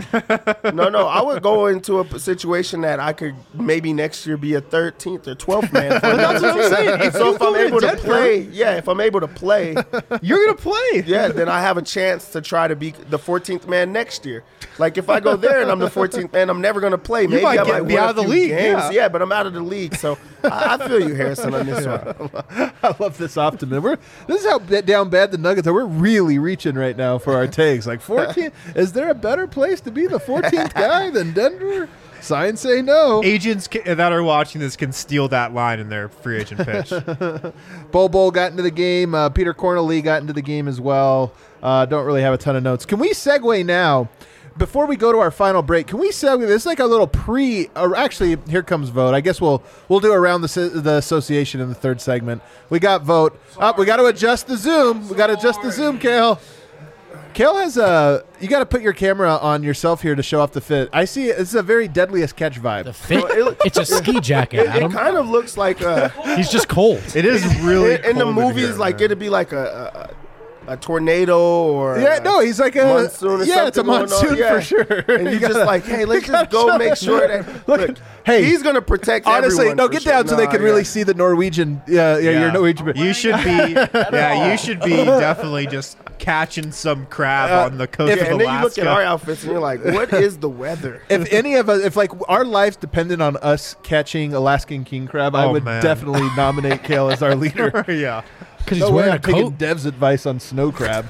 No, no, I would go into a p- situation that I could maybe next year be a thirteenth or twelfth man. For That's what I'm saying. If so you if I'm go to able to Denver- play, yeah, if I'm able to play, You're going to play. yeah, then I have a chance to try to be the fourteenth man next year. Like if I go there and I'm the fourteenth man, I'm never going to play. Maybe might I get- might be win out a of the few league, games. yeah. but I'm out of the league. So I, I feel you, Harrison, on this one. I love this optimism. We're, this is how b- down bad the Nuggets are. We're really reaching right now for our takes. Like fourteen, is there a better place to be the fourteenth guy than Denver? Signs say no. Agents ca- that are watching this can steal that line in their free agent pitch. Bol Bol got into the game. Uh, Peter Cornely got into the game as well. Uh, don't really have a ton of notes. Can we segue now? Before we go to our final break, can we segue? This is like a little pre. Or actually, here comes Vote. I guess we'll we'll do around the the association in the third segment. We got Vote. Up. We got to adjust the zoom. We got to adjust the zoom, Kale. Kale has a. You got to put your camera on yourself here to show off the fit. I see. This is a very deadliest catch vibe. The fit. it- It's a ski jacket, It, it Adam. kind of looks like uh, He's just cold. It is really in, in the cold movies, here, like man. it'd be like a. a a tornado or Yeah, no, he's like a monsoon or yeah, it's a something going on, monsoon yeah. for sure. and You you're just gotta- like, hey, let's you just gotta go show make them. sure that Look, look, hey, he's gonna protect honestly, everyone no, for get sure. down so they Nah, can yeah. really see the Norwegian. Yeah, yeah, Yeah. your Norwegian. You should be, yeah, you should be definitely just catching some crab Uh, on the coast if- Yeah, of and then you look Alaska. at our outfits and you're like, what is the weather? If any of us, if like our lives depended on us catching Alaskan king crab, I Oh, would man. definitely nominate Kale as our leader. yeah. Because he's No way wearing a I'm taking coat. Dev's advice on snow crab.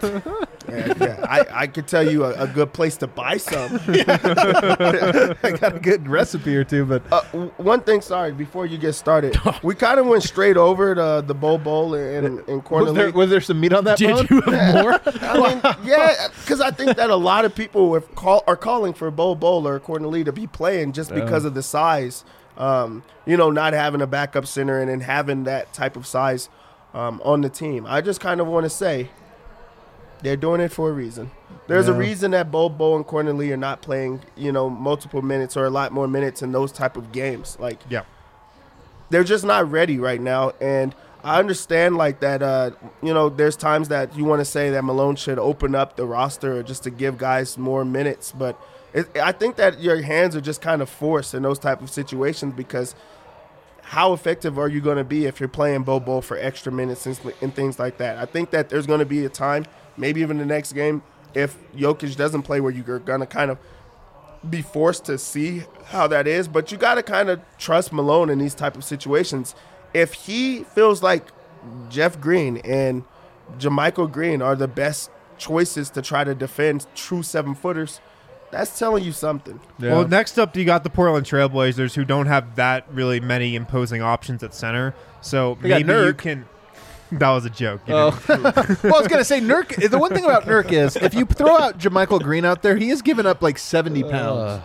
Yeah, yeah. I, I could tell you a, a good place to buy some. I got a good recipe or two, but Uh, w- one thing, sorry, before you get started, we kind of went straight over the the Bol Bol and, and was Cornelly. there, was there some meat on that bone? Did you have more? I mean, yeah, because I think that a lot of people have call, are calling for Bol Bol or Cornelly to be playing just because of the size. Um, you know, not having a backup center and then having that type of size um, on the team. I just kind of want to say they're doing it for a reason. There's a Yeah. reason that Bol Bol and Cornelly are not playing, you know, multiple minutes or a lot more minutes in those type of games. Like, Yeah. they're just not ready right now. And I understand like that, uh, you know, there's times that you want to say that Malone should open up the roster just to give guys more minutes. But it, I think that your hands are just kind of forced in those type of situations because how effective are you going to be if you're playing Bol Bol for extra minutes and, and things like that? I think that there's going to be a time, maybe even the next game, if Jokic doesn't play where you're going to kind of be forced to see how that is, but you got to kind of trust Malone in these type of situations. If he feels like Jeff Green and JaMychal Green are the best choices to try to defend true seven-footers, that's telling you something. Yeah. Well, next up, you got the Portland Trailblazers, who don't have that really many imposing options at center. So They got maybe you Nurk. can. That was a joke. You Oh. didn't- well, I was gonna say Nurk. The one thing about Nurk is if you throw out JaMychal Green out there, he has given up like seventy pounds.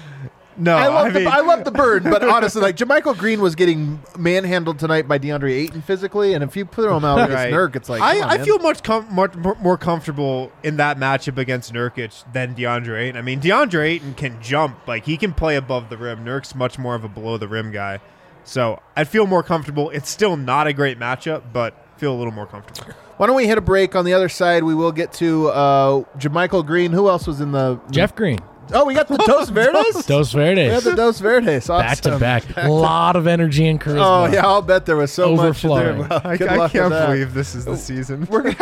no, I love I the mean, I love the bird, but honestly, like JaMychal Green was getting manhandled tonight by DeAndre Ayton physically, and if you throw him out against Right. Nurk, it's like I, come on, I man. feel much com- much more more comfortable in that matchup against Nurkic than DeAndre Ayton. I mean, DeAndre Ayton can jump, like he can play above the rim. Nurk's much more of a below the rim guy, so I'd feel more comfortable. It's still not a great matchup, but feel a little more comfortable. Why don't we hit a break? On the other side, we will get to uh, JaMychal Green. Who else was in the Jeff Green. Oh, we got the Dos Verdes. Dos We had Verdes. the Dos Verdes. Awesome. Back to back. A lot of energy and charisma. Oh yeah, I'll bet there was so Overflowing. much. There. I, Good I luck can't with that. believe this is the season. We're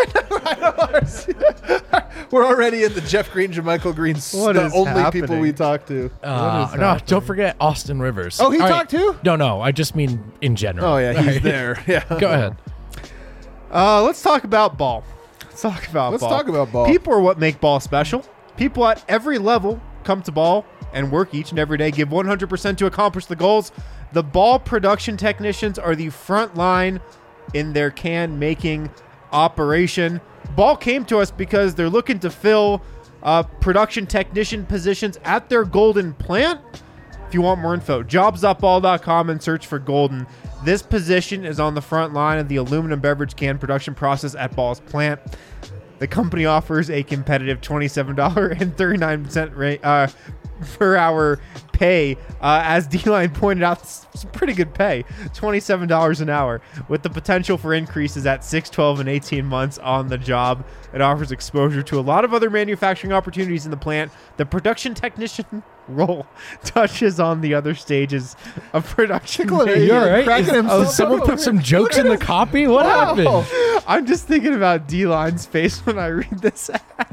We're already in the Jeff Green, JaMychal Green. What the is only happening? people we talk to. Uh, What is no, happening? don't forget Austin Rivers. Oh, he All talked too? No, no, I just mean in general. Oh yeah, All he's right. there. Yeah. Go ahead. Uh, let's talk about ball. Let's talk about Let's ball. talk about ball. People are what make ball special. People at every level come to ball and work each and every day, give one hundred percent to accomplish the goals. The ball production technicians are the front line in their can making operation. Ball came to us because they're looking to fill uh, production technician positions at their Golden plant. if you want more info, jobs up ball dot com and search for Golden. This position is on the front line of the aluminum beverage can production process at Ball's plant. The company offers a competitive twenty-seven dollars and thirty-nine cents rate, uh, per hour pay. Uh, as D-Line pointed out, it's pretty good pay, twenty-seven dollars an hour, with the potential for increases at six, twelve, and eighteen months on the job. It offers exposure to a lot of other manufacturing opportunities in the plant. The production technician role touches on the other stages of production. Hey, You all right? cracking Is- himself oh, someone up. put some jokes in the copy? What Wow. happened? I'm just thinking about D-Line's face when I read this.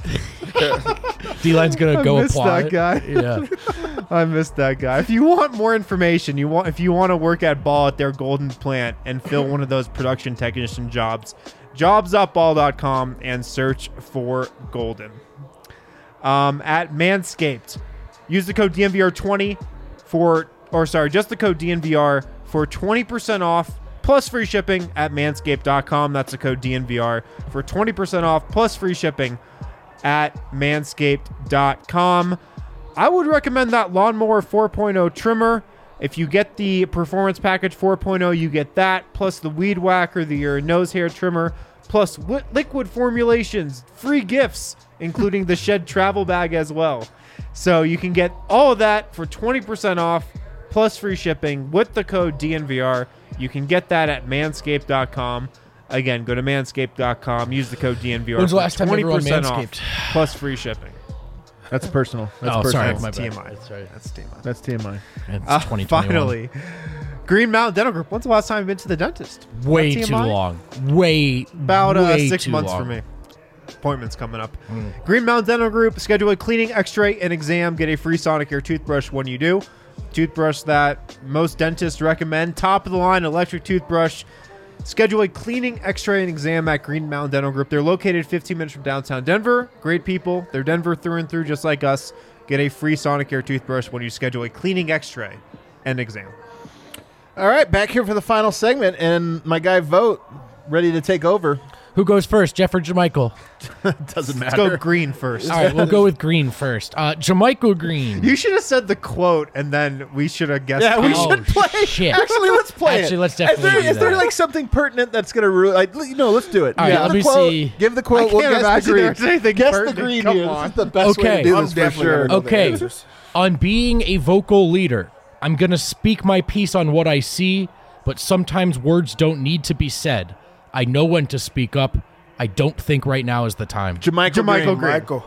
D-Line's going I to go missed apply. that guy. Yeah. I missed that guy. If you want more information, you want if you want to work at Ball at their Golden plant and fill one of those production technician jobs, jobs up ball dot com and search for Golden. Um, at Manscaped, use the code D N V R twenty for, or sorry, just the code D N V R for twenty percent off plus free shipping at manscaped dot com. That's the code D N V R for twenty percent off plus free shipping at manscaped dot com. I would recommend that Lawnmower four point oh trimmer. If you get the Performance Package four point oh, you get that, plus the Weed Whacker, the your nose hair trimmer, plus wi- liquid formulations, free gifts, including the Shed travel bag as well. So you can get all of that for twenty percent off, plus free shipping with the code D N V R. You can get that at manscaped dot com. Again, go to manscaped dot com, use the code D N V R When's the for last time twenty everyone percent off, manscaped? plus free shipping. That's personal. That's Oh, personal. sorry. That's My T bad. M I. That's right. That's T M I. That's T M I. It's Uh, twenty twenty-one. finally, Green Mountain Dental Group. When's the last time you've been to the dentist? Way That too T M I? long. Way, About uh, way six too months long. for me. Appointments coming up. Green Mountain Dental Group. Schedule a cleaning, X-ray, and exam. Get a free Sonicare toothbrush when you do. Toothbrush that most dentists recommend. Top of the line electric toothbrush. Schedule a cleaning, X-ray, and exam at Green Mountain Dental Group. They're located fifteen minutes from downtown Denver. Great people. They're Denver through and through, just like us. Get a free Sonicare toothbrush when you schedule a cleaning, X-ray, and exam. All right, back here for the final segment, and my guy Vote ready to take over. Who goes first, Jeff or Jamichael? Doesn't Let's matter. go green first. All right, we'll go with Green first. Uh, Jamichael Green. You should have said the quote, and then we should have guessed. Yeah, we Oh, should play. shit. Actually, let's play Actually, it. let's Is definitely there, do is there that. like something pertinent that's gonna ruin? Like, you know, let's do it. All right, Give let the me quote, see. Give the I quote. We'll can't guess the imagine green. there's anything Guess the pertinent. green Come here. on. This is the best way Okay. to do I'm this for definitely sure. gonna know the Okay. answers. On being a vocal leader, I'm going to speak my piece on what I see, but sometimes words don't need to be said. I know when to speak up. I don't think right now is the time. Jamichael, Jamichael Green. Green. Michael.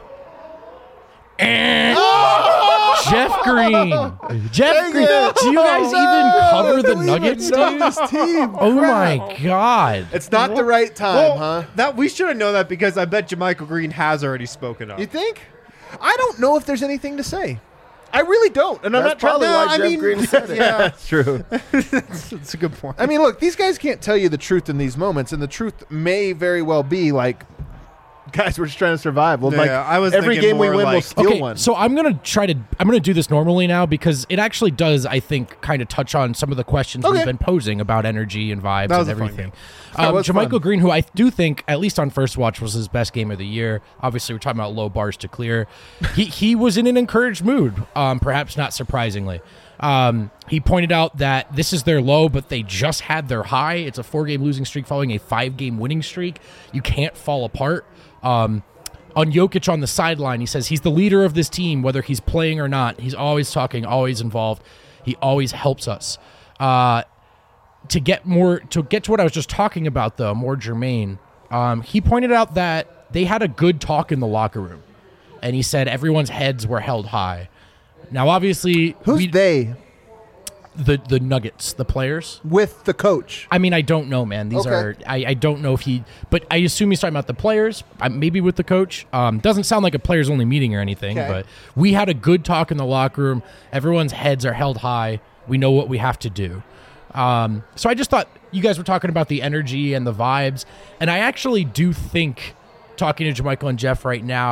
Jeff Green. Jeff Dang Green. it. Do you guys No. even cover the We Nuggets, even know dude? this team. Oh my God. It's not the right time, Well, huh? that we should have known that because I bet Jamichael Green has already spoken up. You think? I don't know if there's anything to say. I really don't, and I'm That's not trying probably to. why I Jeff mean, Green said it. yeah, that's true. That's a good point. I mean, look, these guys can't tell you the truth in these moments, and the truth may very well be like, guys, we're just trying to survive. Well, Yeah, like I was every thinking game we more win, we'll like- steal Okay, one. so I'm gonna try to I'm gonna do this normally now because it actually does, I think, kind of touch on some of the questions Okay. we've been posing about energy and vibes That was and a fun everything. That Um, was Jamichael fun. Green, who I do think, at least on first watch, was his best game of the year. Obviously, we're talking about low bars to clear. he he was in an encouraged mood, um, perhaps not surprisingly. Um, he pointed out that this is their low, but they just had their high. It's a four-game losing streak following a five-game winning streak. You can't fall apart. Um, on Jokic on the sideline, he says he's the leader of this team, whether he's playing or not. He's always talking, always involved. He always helps us. Uh, to get more, to get to what I was just talking about, though, more germane, um, he pointed out that they had a good talk in the locker room, and he said everyone's heads were held high. Now, obviously, Who's we- they the the Nuggets, the players. with the coach? I mean, I don't know, man. These Okay. are I, I don't know if he, but I assume he's talking about the players. Uh, maybe with the coach. Um, doesn't sound like a players only meeting or anything. Okay. But we had a good talk in the locker room. Everyone's heads are held high. We know what we have to do. Um, so I just thought you guys were talking about the energy and the vibes, and I actually do think, talking to Jamichael and Jeff right now,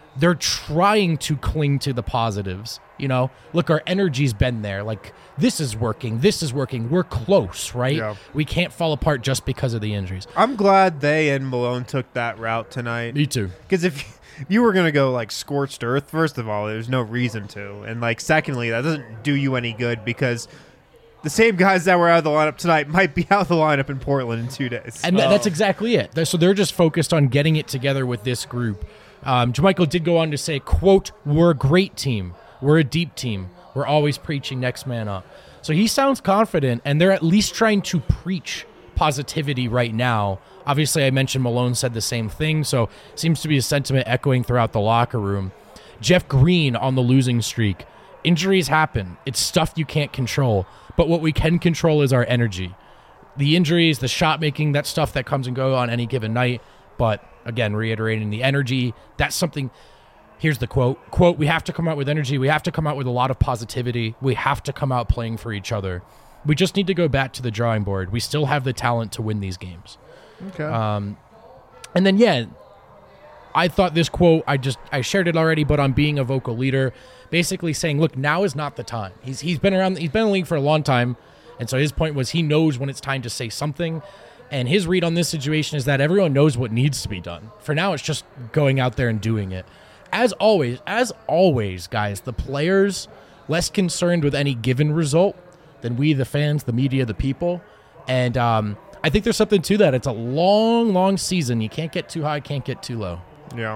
they're trying to cling to the positives. You know, look, our energy's been there. Like, this is working. This is working. We're close, right? Yeah. We can't fall apart just because of the injuries. I'm glad they and Malone took that route tonight. Me too. Because if you were going to go, like, scorched earth, first of all, there's no reason to. And, like, secondly, that doesn't do you any good because the same guys that were out of the lineup tonight might be out of the lineup in Portland in two days. And th- that's exactly it. They're- So they're just focused on getting it together with this group. Um, Jermichael did go on to say, quote, we're a great team. We're a deep team. We're always preaching next man up. So he sounds confident, and they're at least trying to preach positivity right now. Obviously, I mentioned Malone said the same thing, so seems to be a sentiment echoing throughout the locker room. Jeff Green on the losing streak. Injuries happen. It's stuff you can't control. But what we can control is our energy. The injuries, the shot making, that stuff that comes and goes on any given night. But again, reiterating the energy, that's something. Here's the quote. Quote, we have to come out with energy. We have to come out with a lot of positivity. We have to come out playing for each other. We just need to go back to the drawing board. We still have the talent to win these games. Okay. Um, and then, yeah, I thought this quote, I just, I shared it already, but on being a vocal leader, basically saying, look, now is not the time. He's He's been around, he's been in the league for a long time. And so his point was he knows when it's time to say something. And his read on this situation is that everyone knows what needs to be done. For now, it's just going out there and doing it. As always, as always, guys, the players less concerned with any given result than we, the fans, the media, the people. And um, I think there's something to that. It's a long, long season. You can't get too high, can't get too low. Yeah.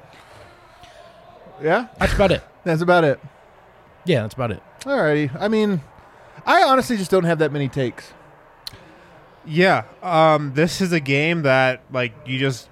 Yeah, That's about it. that's about it. Yeah, that's about it. Alrighty. I mean, I honestly just don't have that many takes. Yeah. Um, this is a game that, like, you just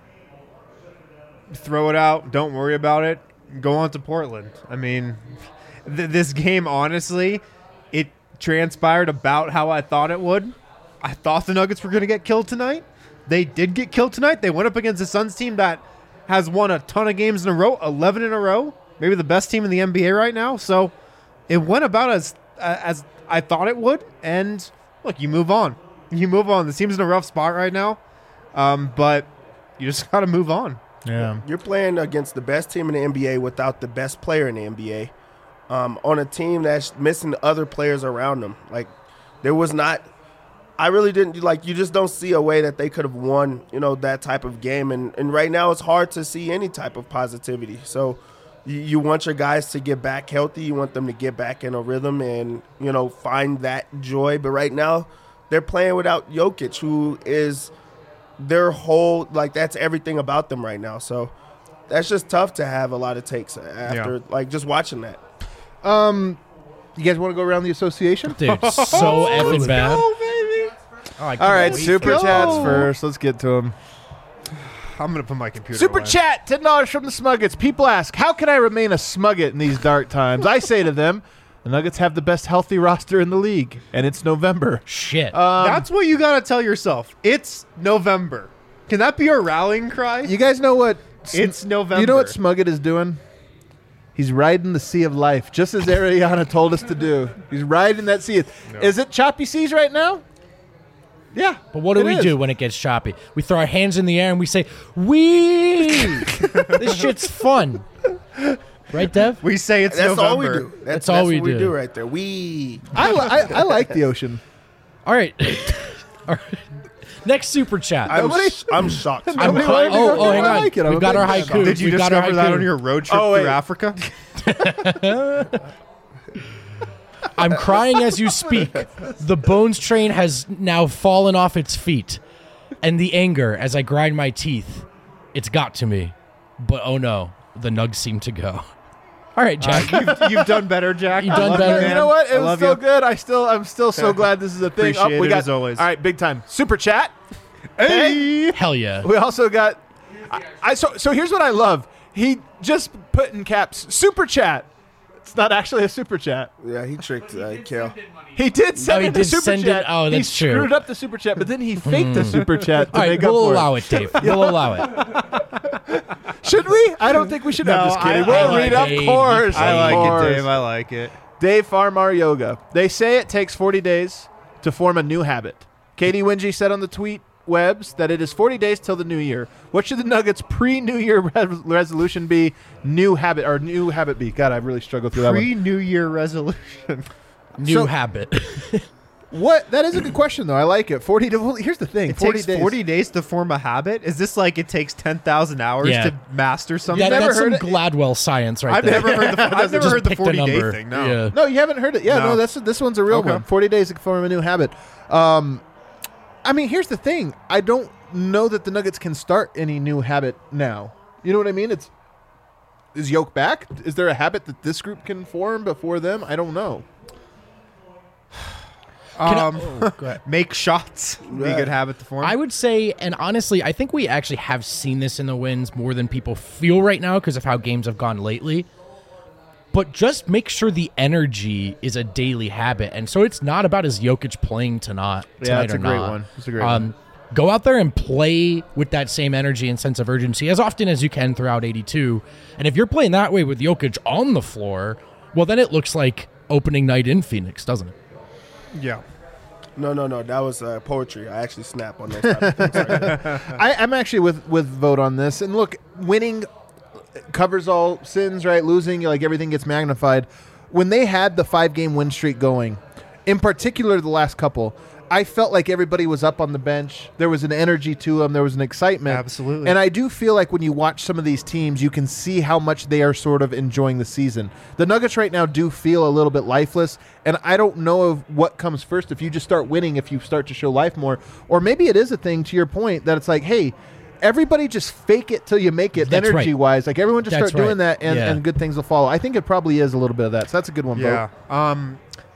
throw it out, don't worry about it, go on to Portland. I mean, th- this game, honestly, it transpired about how I thought it would. I thought the Nuggets were going to get killed tonight. They did get killed tonight. They went up against the Suns team that has won a ton of games in a row, eleven in a row, maybe the best team in the N B A right now. So it went about as as I thought it would. And look, you move on. You move on. The team's in a rough spot right now, um, but you just got to move on. Yeah. You're playing against the best team in the N B A without the best player in the N B A um, on a team that's missing other players around them. Like, there was not – I really didn't – like, you just don't see a way that they could have won, you know, that type of game. And, and right now it's hard to see any type of positivity. So you, you want your guys to get back healthy. You want them to get back in a rhythm and, you know, find that joy. But right now they're playing without Jokic, who is – their whole, like, that's everything about them right now. So that's just tough to have a lot of takes after, Yeah. like, just watching that. Um, you guys want to go around the association? Dude, so effing bad. Go, baby. Oh, I All can't right, wait super for- chats first. Let's get to them. I'm going to put my computer Super away. chat, ten dollars from the Smuggets. People ask, how can I remain a Smugget in these dark times? I say to them, the Nuggets have the best healthy roster in the league, and it's November. Shit. Um, That's what you got to tell yourself. It's November. Can that be a rallying cry? you guys know what? Sm- It's November. You know what Smugget is doing? He's riding the sea of life, just as Ariana told us to do. He's riding that sea. No. Is it choppy seas right now? Yeah. But what do it we is. do when it gets choppy? We throw our hands in the air and we say, "Wee!" This shit's fun, right, Dev? We say it's That's November. all we do. That's, That's all that's we what we do. do right there. We. I, li- I, I like the ocean. All right. All right. Next super chat. I'm, Nobody- sh- I'm shocked. I'm Nobody cri- wanted to oh, go oh, there. hang I on. like it. I'm We've a got big our fan. haiku. Did you We've got our discover that haiku. on your road trip Oh, wait. through Africa? I'm crying as you speak. The Bones train has now fallen off its feet. And the anger as I grind my teeth, it's got to me. But oh no, the nugs seem to go. All right, Jack. you've, you've done better, Jack. You've I done love better. You, You man. know what? It I was love still you. good. I still, I'm still so glad this is a thing. Appreciate we it got, as always. All right, big time. Super chat. Hey. Hell yeah. We also got. I, I so so here's what I love. He just put in caps super chat. It's not actually a super chat. Yeah, he tricked uh, Kel. He did send Oh, he it the did super send it? chat. Oh, that's he true. screwed up the super chat, but then he faked the super chat to All right, make up we'll for allow it. it, Dave. We'll allow it. Should we? I don't think we should. No, I'm just kidding. I- we'll I read, like of it. course. I of like course. it, Dave. I like it. Dave Farmar Yoga. They say it takes forty days to form a new habit. Katie Wingy said on the tweet, interwebs that it is forty days till the new year. What should the Nuggets pre-New Year re- resolution be? New habit or new habit be? God, I really struggled through that one. Pre-New Year resolution. New So- habit. What? That is a good question, though. I like it. forty. To, well, here's the thing. It forty takes days. forty days to form a habit. Is this like it takes ten thousand hours Yeah. to master something? That, never that's some heard it? Gladwell science right I've there. never heard the I've never Just heard the picked a forty day number. thing. No. Yeah. No, you haven't heard it. Yeah, no, No. that's this one's a real Okay. one. forty days to form a new habit. Um, I mean, here's the thing. I don't know that the Nuggets can start any new habit now. You know what I mean? It's is Yoke back? Is there a habit that this group can form before them? I don't know. Can I- Um, oh, go ahead. make shots. Be a Yeah. good habit to form. I would say, and honestly, I think we actually have seen this in the wins more than people feel right now because of how games have gone lately. But just make sure the energy is a daily habit, and so it's not about is Jokic playing tonight. Yeah, tonight that's or a great not. one. That's a great um, one. Go out there and play with that same energy and sense of urgency as often as you can throughout eighty-two. And if you're playing that way with Jokic on the floor, well, then it looks like opening night in Phoenix, doesn't it? yeah. No, no, no. That was uh, poetry. I actually snap on those type of things. Right? I, I'm actually with with vote on this. And look, winning covers all sins, right? Losing, like everything gets magnified. When they had the five game win streak going, in particular the last couple, I felt like everybody was up on the bench. There was an energy to them. There was an excitement. Absolutely. And I do feel like when you watch some of these teams, you can see how much they are sort of enjoying the season. The Nuggets right now do feel a little bit lifeless, and I don't know of what comes first. If you just start winning, if you start to show life more, or maybe it is a thing, to your point, that it's like, hey, everybody just fake it till you make it, That's right. energy-wise. Like, everyone just That's start doing right. that, and, Yeah. and good things will follow. I think it probably is a little bit of that, so that's a good one, Yeah. vote. Um,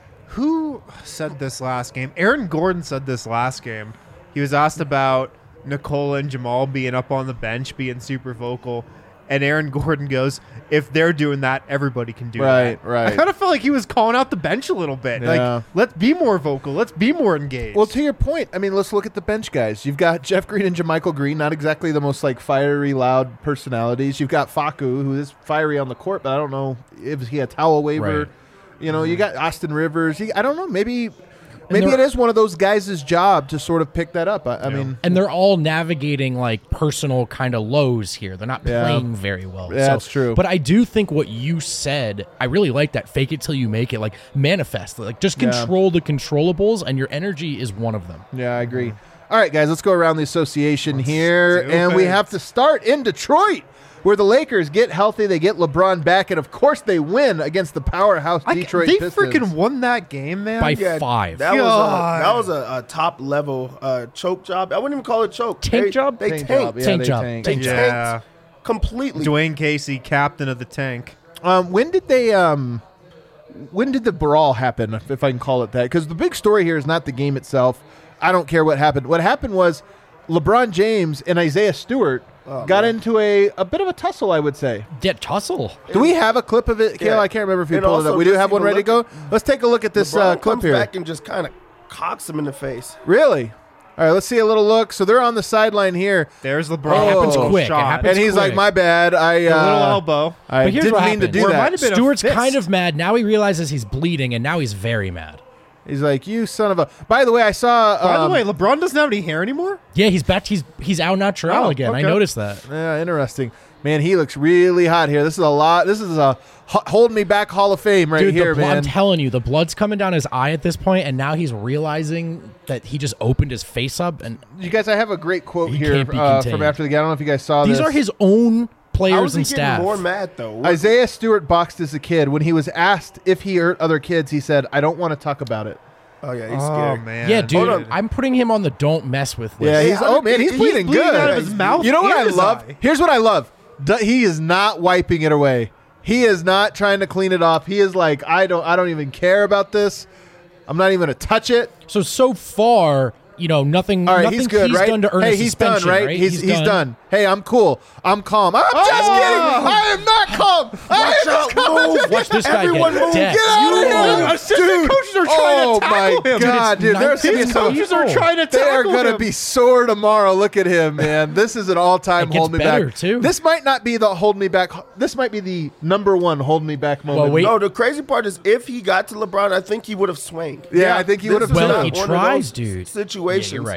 who said this last game? Aaron Gordon said this last game. He was asked about Nikola and Jamal being up on the bench, being super vocal. And Aaron Gordon goes, if they're doing that, everybody can do Right, that. right. I kind of felt like he was calling out the bench a little bit. Yeah. Like, let's be more vocal. Let's be more engaged. Well, to your point, I mean, let's look at the bench guys. You've got Jeff Green and JaMychal Green, not exactly the most like fiery, loud personalities. You've got Facu, who is fiery on the court, but I don't know if he had a towel waiver. Right. You know, you got Austin Rivers. He, I don't know. Maybe, maybe there- it is one of those guys' job to sort of pick that up. I, I mean, And they're all navigating like personal kind of lows here. They're not Yeah. playing very well. Yeah, So- that's true. But I do think what you said, I really like that. Fake it till you make it. Like manifest. Like just Yeah. control the controllables, and your energy is one of them. yeah, I agree. All right, guys, let's go around the association here, do and we it. have to start in Detroit, where the Lakers get healthy, they get LeBron back, and of course they win against the powerhouse I, Detroit they Pistons. freaking won that game, man. By Yeah, five. That was a, God. that was a, a top level uh, choke job. I wouldn't even call it choke. Tank they, job? They Tank tanked. job, yeah, Tank they job. tanked. They Tank yeah. tanked completely. Dwayne Casey, captain of the tank. Um, when did they? Um, when did the brawl happen? If, if I can call it that, because the big story here is not the game itself. I don't care what happened. What happened was LeBron James and Isaiah Stewart Oh, got man. into a, a bit of a tussle, I would say. Get tussle. Do we have a clip of it, Kayla? Yeah. I can't remember if you And pulled it up. also We do just have one even ready to go. look Let's take a look at this LeBron uh, clip comes here. back and just kind of cocks him in the face. Really? All right, let's see a little look. So they're on the sideline here, There's LeBron. Oh. It happens quick. It Shot. happens and he's quick. like, "My bad. I A little uh, elbow. I But here's didn't what mean to happened. do Or it that." might have been a Stewart's fist. kind of mad. Now he realizes he's bleeding, and now he's very mad. He's like, "You son of a." By the way, I saw. By um, the way, LeBron doesn't have any hair anymore. Yeah, he's back. He's he's out natural Oh, again. I okay. noticed that. Yeah, interesting. Man, he looks really hot here. This is a lot. This is a ho- hold me back Hall of Fame right Dude, here, the blood, I'm man. telling you, the blood's coming down his eye at this point, and now he's realizing that he just opened his face up. And You guys, I have a great quote He here can't be uh, contained. from after the game. I don't know if you guys saw these this. are his own How players is he and getting staff. more mad though? What- Isaiah Stewart boxed as a kid. When he was asked if he hurt other kids, he said, "I don't want to talk about it." Oh yeah, he's Oh scary. man. Yeah, dude, on. I'm putting him on the don't mess with list. Yeah, Hey, he's how oh did- man, he's he's bleeding bleeding good. out of his mouth You know what and I his love? eye. Here's what I love. D- he is not wiping it away. He is not trying to clean it off. He is like, I don't, I don't even care about this. I'm not even gonna touch it. So so far, you know, nothing. All right, nothing he's good, right? done to earn hey, a he's done, suspension, right? He's, he's done. Hey, I'm cool. I'm calm. I'm just Oh! kidding. I am not calm. I am Watch just out, calm. move. Watch this guy Everyone get move. decked. Get out of here. Oh, assistant coaches are trying oh to tackle my him. god, Dude, dude! it's There's gonna be nineteen some. Coaches are trying to They are tackle going to him. be sore tomorrow. Look at him, man. This is an all-time It gets hold me better, back. too. This might not be the hold me back. This might be the number one hold me back moment. Well, wait. No, the crazy part is if he got to LeBron, I think he would have swung. Yeah, I think he This would have is Well, not he one of tries, those dude. Situations. Yeah, you're right.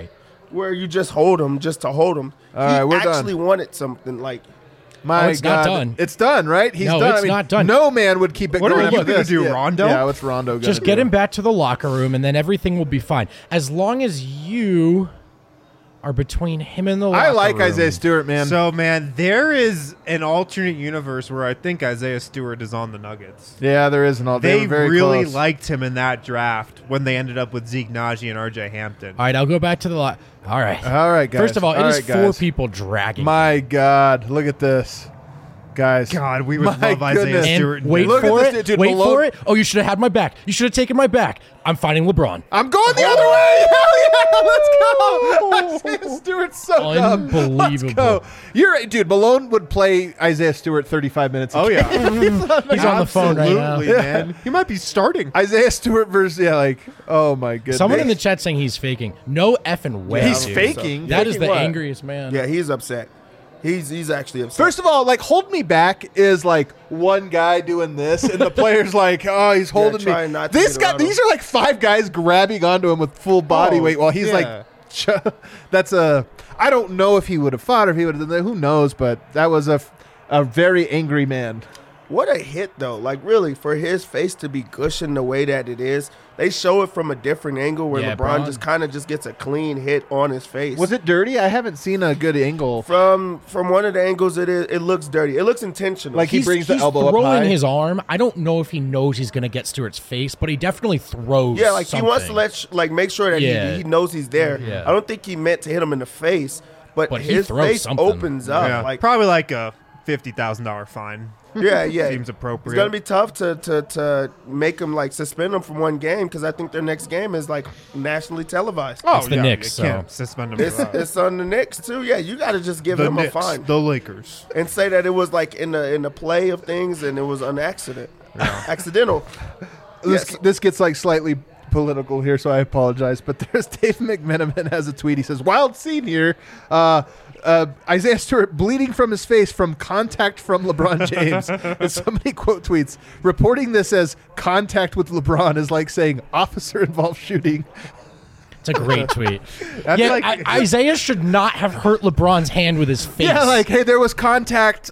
where you just hold him just to hold him. All he right, we're done. actually wanted something like. My Oh, it's God. not done. It's done, right? He's No, done. it's I mean, not done. No man would keep it What are going you after gonna this. do, yeah. Rondo? Yeah, what's Rondo going to do? Just get him back to the locker room, and then everything will be fine. As long as you are between him and the locker I like room. Isaiah Stewart, man. So, man, there is an alternate universe where I think Isaiah Stewart is on the Nuggets. yeah, there is an all. They, They were very really close. liked him in that draft when they ended up with Zeke Naji and R J Hampton. All right, I'll go back to the lot. All right. All right, guys. First of all, it All is right, four guys. people dragging. My God, look at this, guys. God, we would My love Isaiah goodness. Stewart. and in wait Denver. Look at for this it. dude, dude, wait below- for it. Oh, you should have had my back. You should have taken my back. I'm fighting LeBron. I'm going the other way. Hell yeah, let's go. Isaiah Stewart's so dumb. Unbelievable. Let's go. You're right, dude. Malone would play Isaiah Stewart thirty-five minutes. a Oh, game. yeah. He's on the phone right now. Absolutely, man. He might be starting. Isaiah Stewart versus yeah, like oh my goodness. Someone in the chat saying he's faking. No effing way. He's dude. faking. That is Faking the what? angriest man. Yeah, he's upset. He's he's actually upset. First of all, like hold me back is like one guy doing this, and the player's like, oh, he's holding trying me. not to This get guy, around him. these are like five guys grabbing onto him with full body Oh, weight while he's yeah. like, ch- that's a. I don't know if he would have fought or if he would have done that. Who knows? But that was a, f- a very angry man. What a hit, though. Like, really, for his face to be gushing the way that it is, they show it from a different angle where Yeah, LeBron Bron- just kind of just gets a clean hit on his face. Was it dirty? I haven't seen a good angle. From from one of the angles, it is. It looks dirty. It looks intentional. Like he He's, brings the he's elbow up throwing high. his arm. I don't know if he knows he's going to get Stewart's face, but he definitely throws. yeah, like he wants to something. let sh- like make sure that Yeah. he, he knows he's there. Yeah. I don't think he meant to hit him in the face, but, But he his throws face something. opens up. Yeah, Like probably like a fifty thousand dollar fine. yeah, yeah, Seems appropriate. It's gonna be tough to to, to make him like suspend him from one game because I think their next game is like nationally televised. Oh, It's the yeah, Knicks, You can't so- suspend him It's, for that. it's on the Knicks too. Yeah, you got to just give the him Knicks, a fine the Lakers. and say that it was like in the in the play of things and it was an accident, accidental. This, Yes. this gets like slightly political here, so I apologize. But there's Dave McMenamin has a tweet. He says, "Wild scene here. Uh, uh, Isaiah Stewart bleeding from his face from contact from LeBron James." And so many quote tweets reporting this as contact with LeBron is like saying officer involved shooting. It's a great tweet. That's yeah, like- I, Isaiah should not have hurt LeBron's hand with his face. Yeah, like hey, there was contact.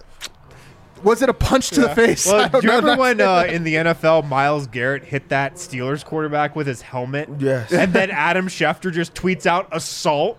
Was it a punch to the face? I Well, don't do you know. remember when uh, in the N F L Myles Garrett hit that Steelers quarterback with his helmet? Yes. And then Adam Schefter just tweets out assault.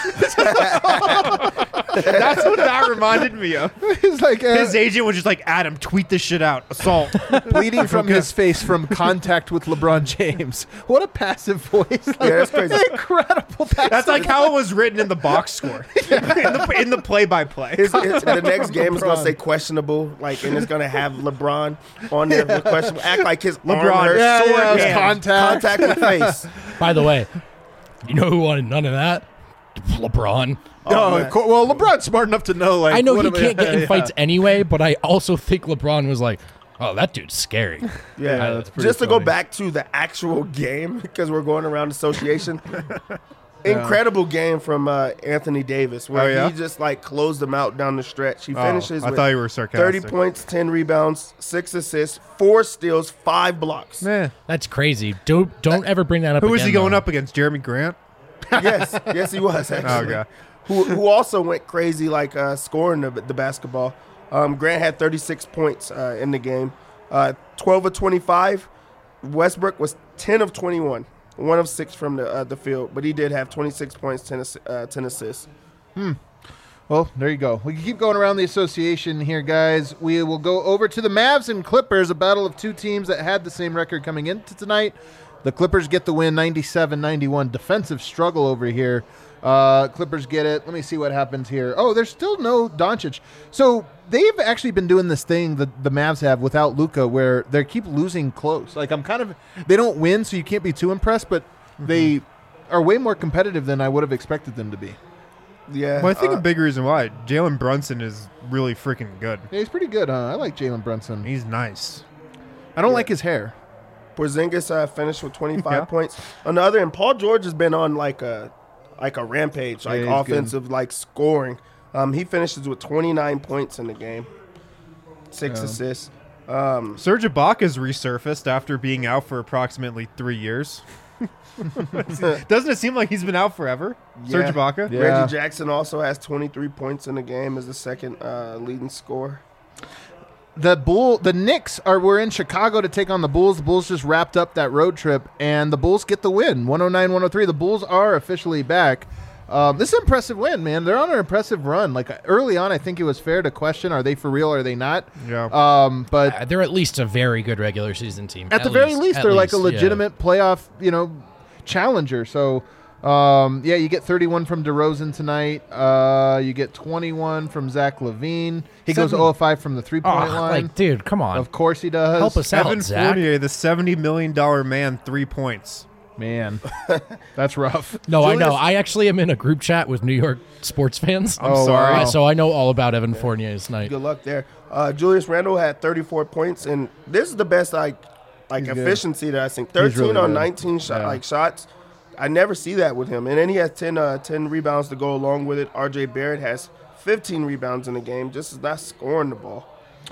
That's what that reminded me of. He's like uh, His agent was just like, Adam, tweet this shit out. Assault. bleeding from his face from contact with LeBron James. What a passive voice! Like, Yeah, that's crazy. Incredible passive. That's like how it was written in the box score. in, the, in the play-by-play. His, his, the next game is gonna say questionable, like, and it's gonna have LeBron on there with questionable. Act like his LeBron, arm hurts. yeah, sword yeah, it was hand, contact. contact with face. By the way, you know who wanted none of that? LeBron. Oh, man. cool. Well, LeBron's smart enough to know. Like, I know what he am I- can't get in yeah. fights anyway, but I also think LeBron was like, "Oh, that dude's scary." Yeah, Yeah, that's pretty just to go funny. back to the actual game because we're going around association. Incredible game from uh, Anthony Davis where Oh, yeah? he just like closed them out down the stretch. He Oh, finishes I with thought you were sarcastic. thirty points, ten rebounds, six assists, four steals, five blocks. Man. That's crazy. Don't don't ever bring that up. Who was again, he going though. up against? Jeremy Grant? yes, yes, he was actually. Okay. Who who also went crazy like uh, scoring the, the basketball. Um, Grant had thirty-six points uh, in the game, uh, twelve of twenty-five. Westbrook was ten of twenty-one, one of six from the uh, the field, but he did have twenty-six points, ten assi- uh, ten assists. Well, there you go. We can keep going around the association here, guys. We will go over to the Mavs and Clippers, a battle of two teams that had the same record coming into tonight. The Clippers get the win, ninety-seven ninety-one. Defensive struggle over here. Uh, Clippers get it. Let me see what happens here. Oh, there's still no Doncic. So they've actually been doing this thing that the Mavs have without Luka, where they keep losing close. Like I'm kind of, they don't win, so you can't be too impressed, but they are way more competitive than I would have expected them to be. Yeah, Well, I think uh, a big reason why Jalen Brunson is really freaking good. Yeah, he's pretty good, huh? I like Jalen Brunson. He's nice. I don't Yeah. like his hair. Porzingis uh, finished with twenty-five Yeah. points. On the other end, Paul George has been on like a like a rampage, like Yeah, he's good. offensive, like scoring. Um, he finishes with twenty-nine points in the game, six Yeah. assists. Um, Serge Ibaka's resurfaced after being out for approximately three years. Doesn't it seem like he's been out forever? Serge Yeah. Ibaka? Yeah. Reggie Jackson also has twenty-three points in the game as the second uh, leading scorer. The Bull, the Knicks are we're in Chicago to take on the Bulls. The Bulls just wrapped up that road trip, and the Bulls get the win, one oh nine one oh three. The Bulls are officially back. Um, this is an impressive win, man. They're on an impressive run. Like early on, I think it was fair to question: are they for real? Or are they not? Yeah. Um, but Uh, they're at least a very good regular season team. at, the very least, at they're like a least, yeah. legitimate playoff, you know, challenger. So, um, yeah, you get thirty-one from DeRozan tonight. Uh, you get twenty-one from Zach LaVine. He goes Seven- zero of five from the three-point Oh, line. like, dude, come on. Of course he does. Help us out, Evan Zach. Fournier, the seventy million dollars man, three points. Man, that's rough. No, I Julius- know. I actually am in a group chat with New York sports fans. I'm Oh, sorry. wow. Uh, so I know all about Evan Fournier's night. Good luck there. Uh, Julius Randle had thirty-four points, and this is the best like like He's good. efficiency that I think. thirteen really on good. nineteen shot Yeah. like shots. I never see that with him. And then he has ten, uh, ten rebounds to go along with it. R J Barrett has fifteen rebounds in the game, just is not scoring the ball.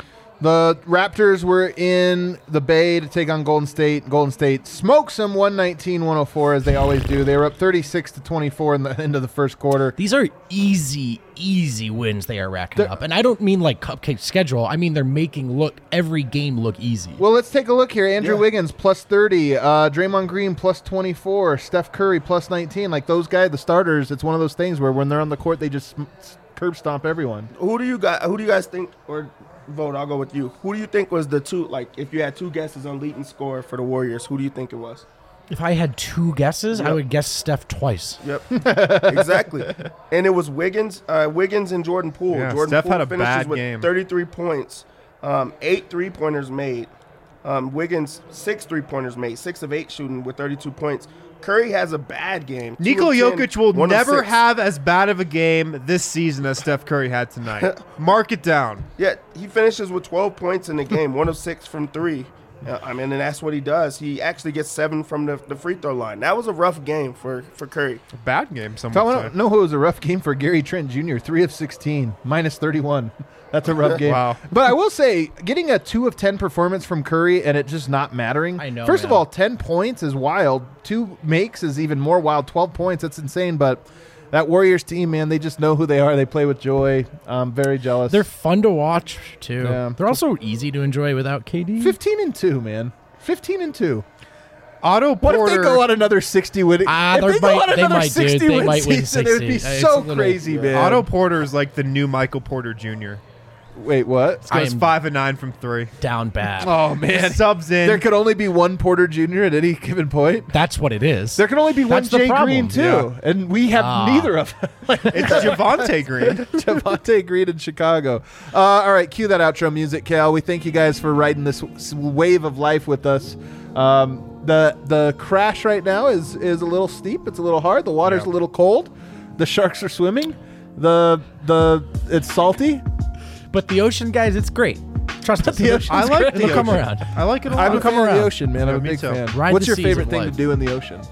The Raptors were in the Bay to take on Golden State. Golden State smokes them one nineteen one oh four, as they always do. They were up thirty-six to twenty-four in the end of the first quarter. These are easy, easy wins they are racking They're- up. And I don't mean like cupcake schedule. I mean they're making look every game look easy. Well, let's take a look here. Andrew Yeah. Wiggins plus thirty, uh, Draymond Green plus twenty-four, Steph Curry plus nineteen. Like those guys, the starters, it's one of those things where when they're on the court, they just sm- curb stomp everyone. Who do you guys? Who do you guys think? Or vote. I'll go with you. Who do you think was the two? Like, if you had two guesses on leading scorer for the Warriors, who do you think it was? If I had two guesses, I Yep. would guess Steph twice. Yep, exactly. And it was Wiggins, uh, Wiggins and Jordan Poole. Yeah, Jordan Steph Poole had a finishes bad with game. thirty-three points, um, eight three-pointers made. Um, Wiggins six three-pointers made, six of eight shooting with thirty-two points. Curry has a bad game. two Nikola of ten, Jokic will one of never six. have as bad of a game this season as Steph Curry had tonight. Mark it down. Yeah, he finishes with twelve points in the game, one of six from three. Uh, I mean, and that's what he does. He actually gets seven from the, the free throw line. That was a rough game for, for Curry. Bad game, some If I would want say. to know who was a rough game for Gary Trent Junior, three of sixteen, minus thirty-one. That's a rough game. Wow. But I will say, getting a two of ten performance from Curry and it just not mattering. I know, First of man. all, ten points is wild. Two makes is even more wild. twelve points, that's insane. But that Warriors team, man, they just know who they are. They play with joy. I'm very jealous. They're fun to watch too. Yeah. They're also easy to enjoy without K D. fifteen and two, man. fifteen and two. Otto What Porter. if they go on another sixty win? Ah, if they they go might- on they another might, dude. sixty They win might win season, it would be sixty. It's so a little- crazy, yeah. man. Otto Porter is like the new Michael Porter Junior Wait, what? I Goes am- five and nine from three. Down bad. Oh man, Subs in. there could only be one Porter Junior at any given point. That's what it is. There can only be one That's the Jay problem. Green too, Yeah. and we have Ah. neither of them. It's Javante Green. Javante Green in Chicago. Uh, all right, cue that outro music, Cal. We thank you guys for riding this s- wave of life with us. Um, the the crash right now is is a little steep. It's a little hard. The water's Yeah. a little cold. The sharks are swimming. The the it's salty. But the ocean, guys, it's great. Trust us. the ocean's I like great. the It'll come ocean. around. I like it a lot. I'm a come fan of the around. ocean, man. I'm Yeah, a me big too. fan. Ride What's the your seas favorite of thing to life. do in the ocean?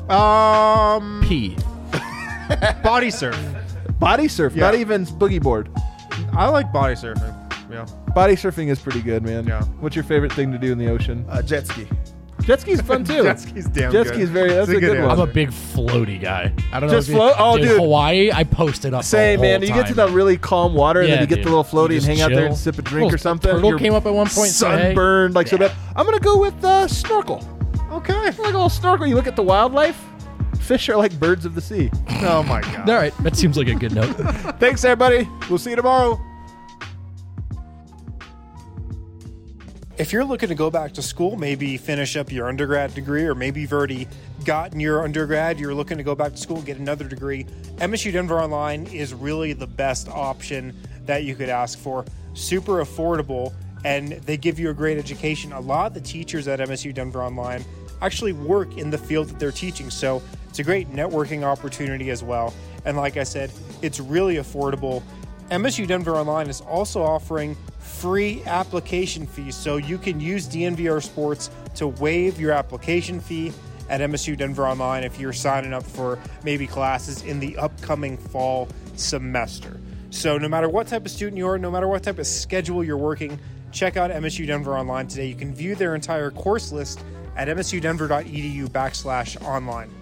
Um, P. body surf. Body surf, Yeah. not even boogie board. I like body surfing. Yeah. Body surfing is pretty good, man. Yeah. What's your favorite thing to do in the ocean? Uh, jet ski. Jet ski's fun too. Jet ski's damn Jet good. ski's very- that's It's a good one. I'm a answer. big floaty guy. I don't Just know. if you- float? Oh, dude. Hawaii, I posted up. Say, the man, whole you get to time. the really calm water, and Yeah, then you get dude. the little floaty You and just hang out there and chill. sip a drink Little or something. turtle You're came up at one point, so, hey. sunburned, like so Yeah. bad. I'm gonna go with uh, snorkel. Okay. Like a little snorkel. You look at the wildlife. Fish are like birds of the sea. Oh my god. All right, that seems like a good note. Thanks, everybody. We'll see you tomorrow. If you're looking to go back to school, maybe finish up your undergrad degree, or maybe you've already gotten your undergrad, you're looking to go back to school and get another degree, M S U Denver Online is really the best option that you could ask for. Super affordable, and they give you a great education. A lot of the teachers at M S U Denver Online actually work in the field that they're teaching, so it's a great networking opportunity as well. And like I said, it's really affordable. M S U Denver Online is also offering free application fees, so you can use D N V R Sports to waive your application fee at M S U Denver Online if you're signing up for maybe classes in the upcoming fall semester. So no matter what type of student you are, no matter what type of schedule you're working, check out M S U Denver Online today. You can view their entire course list at msudenver.edu backslash online.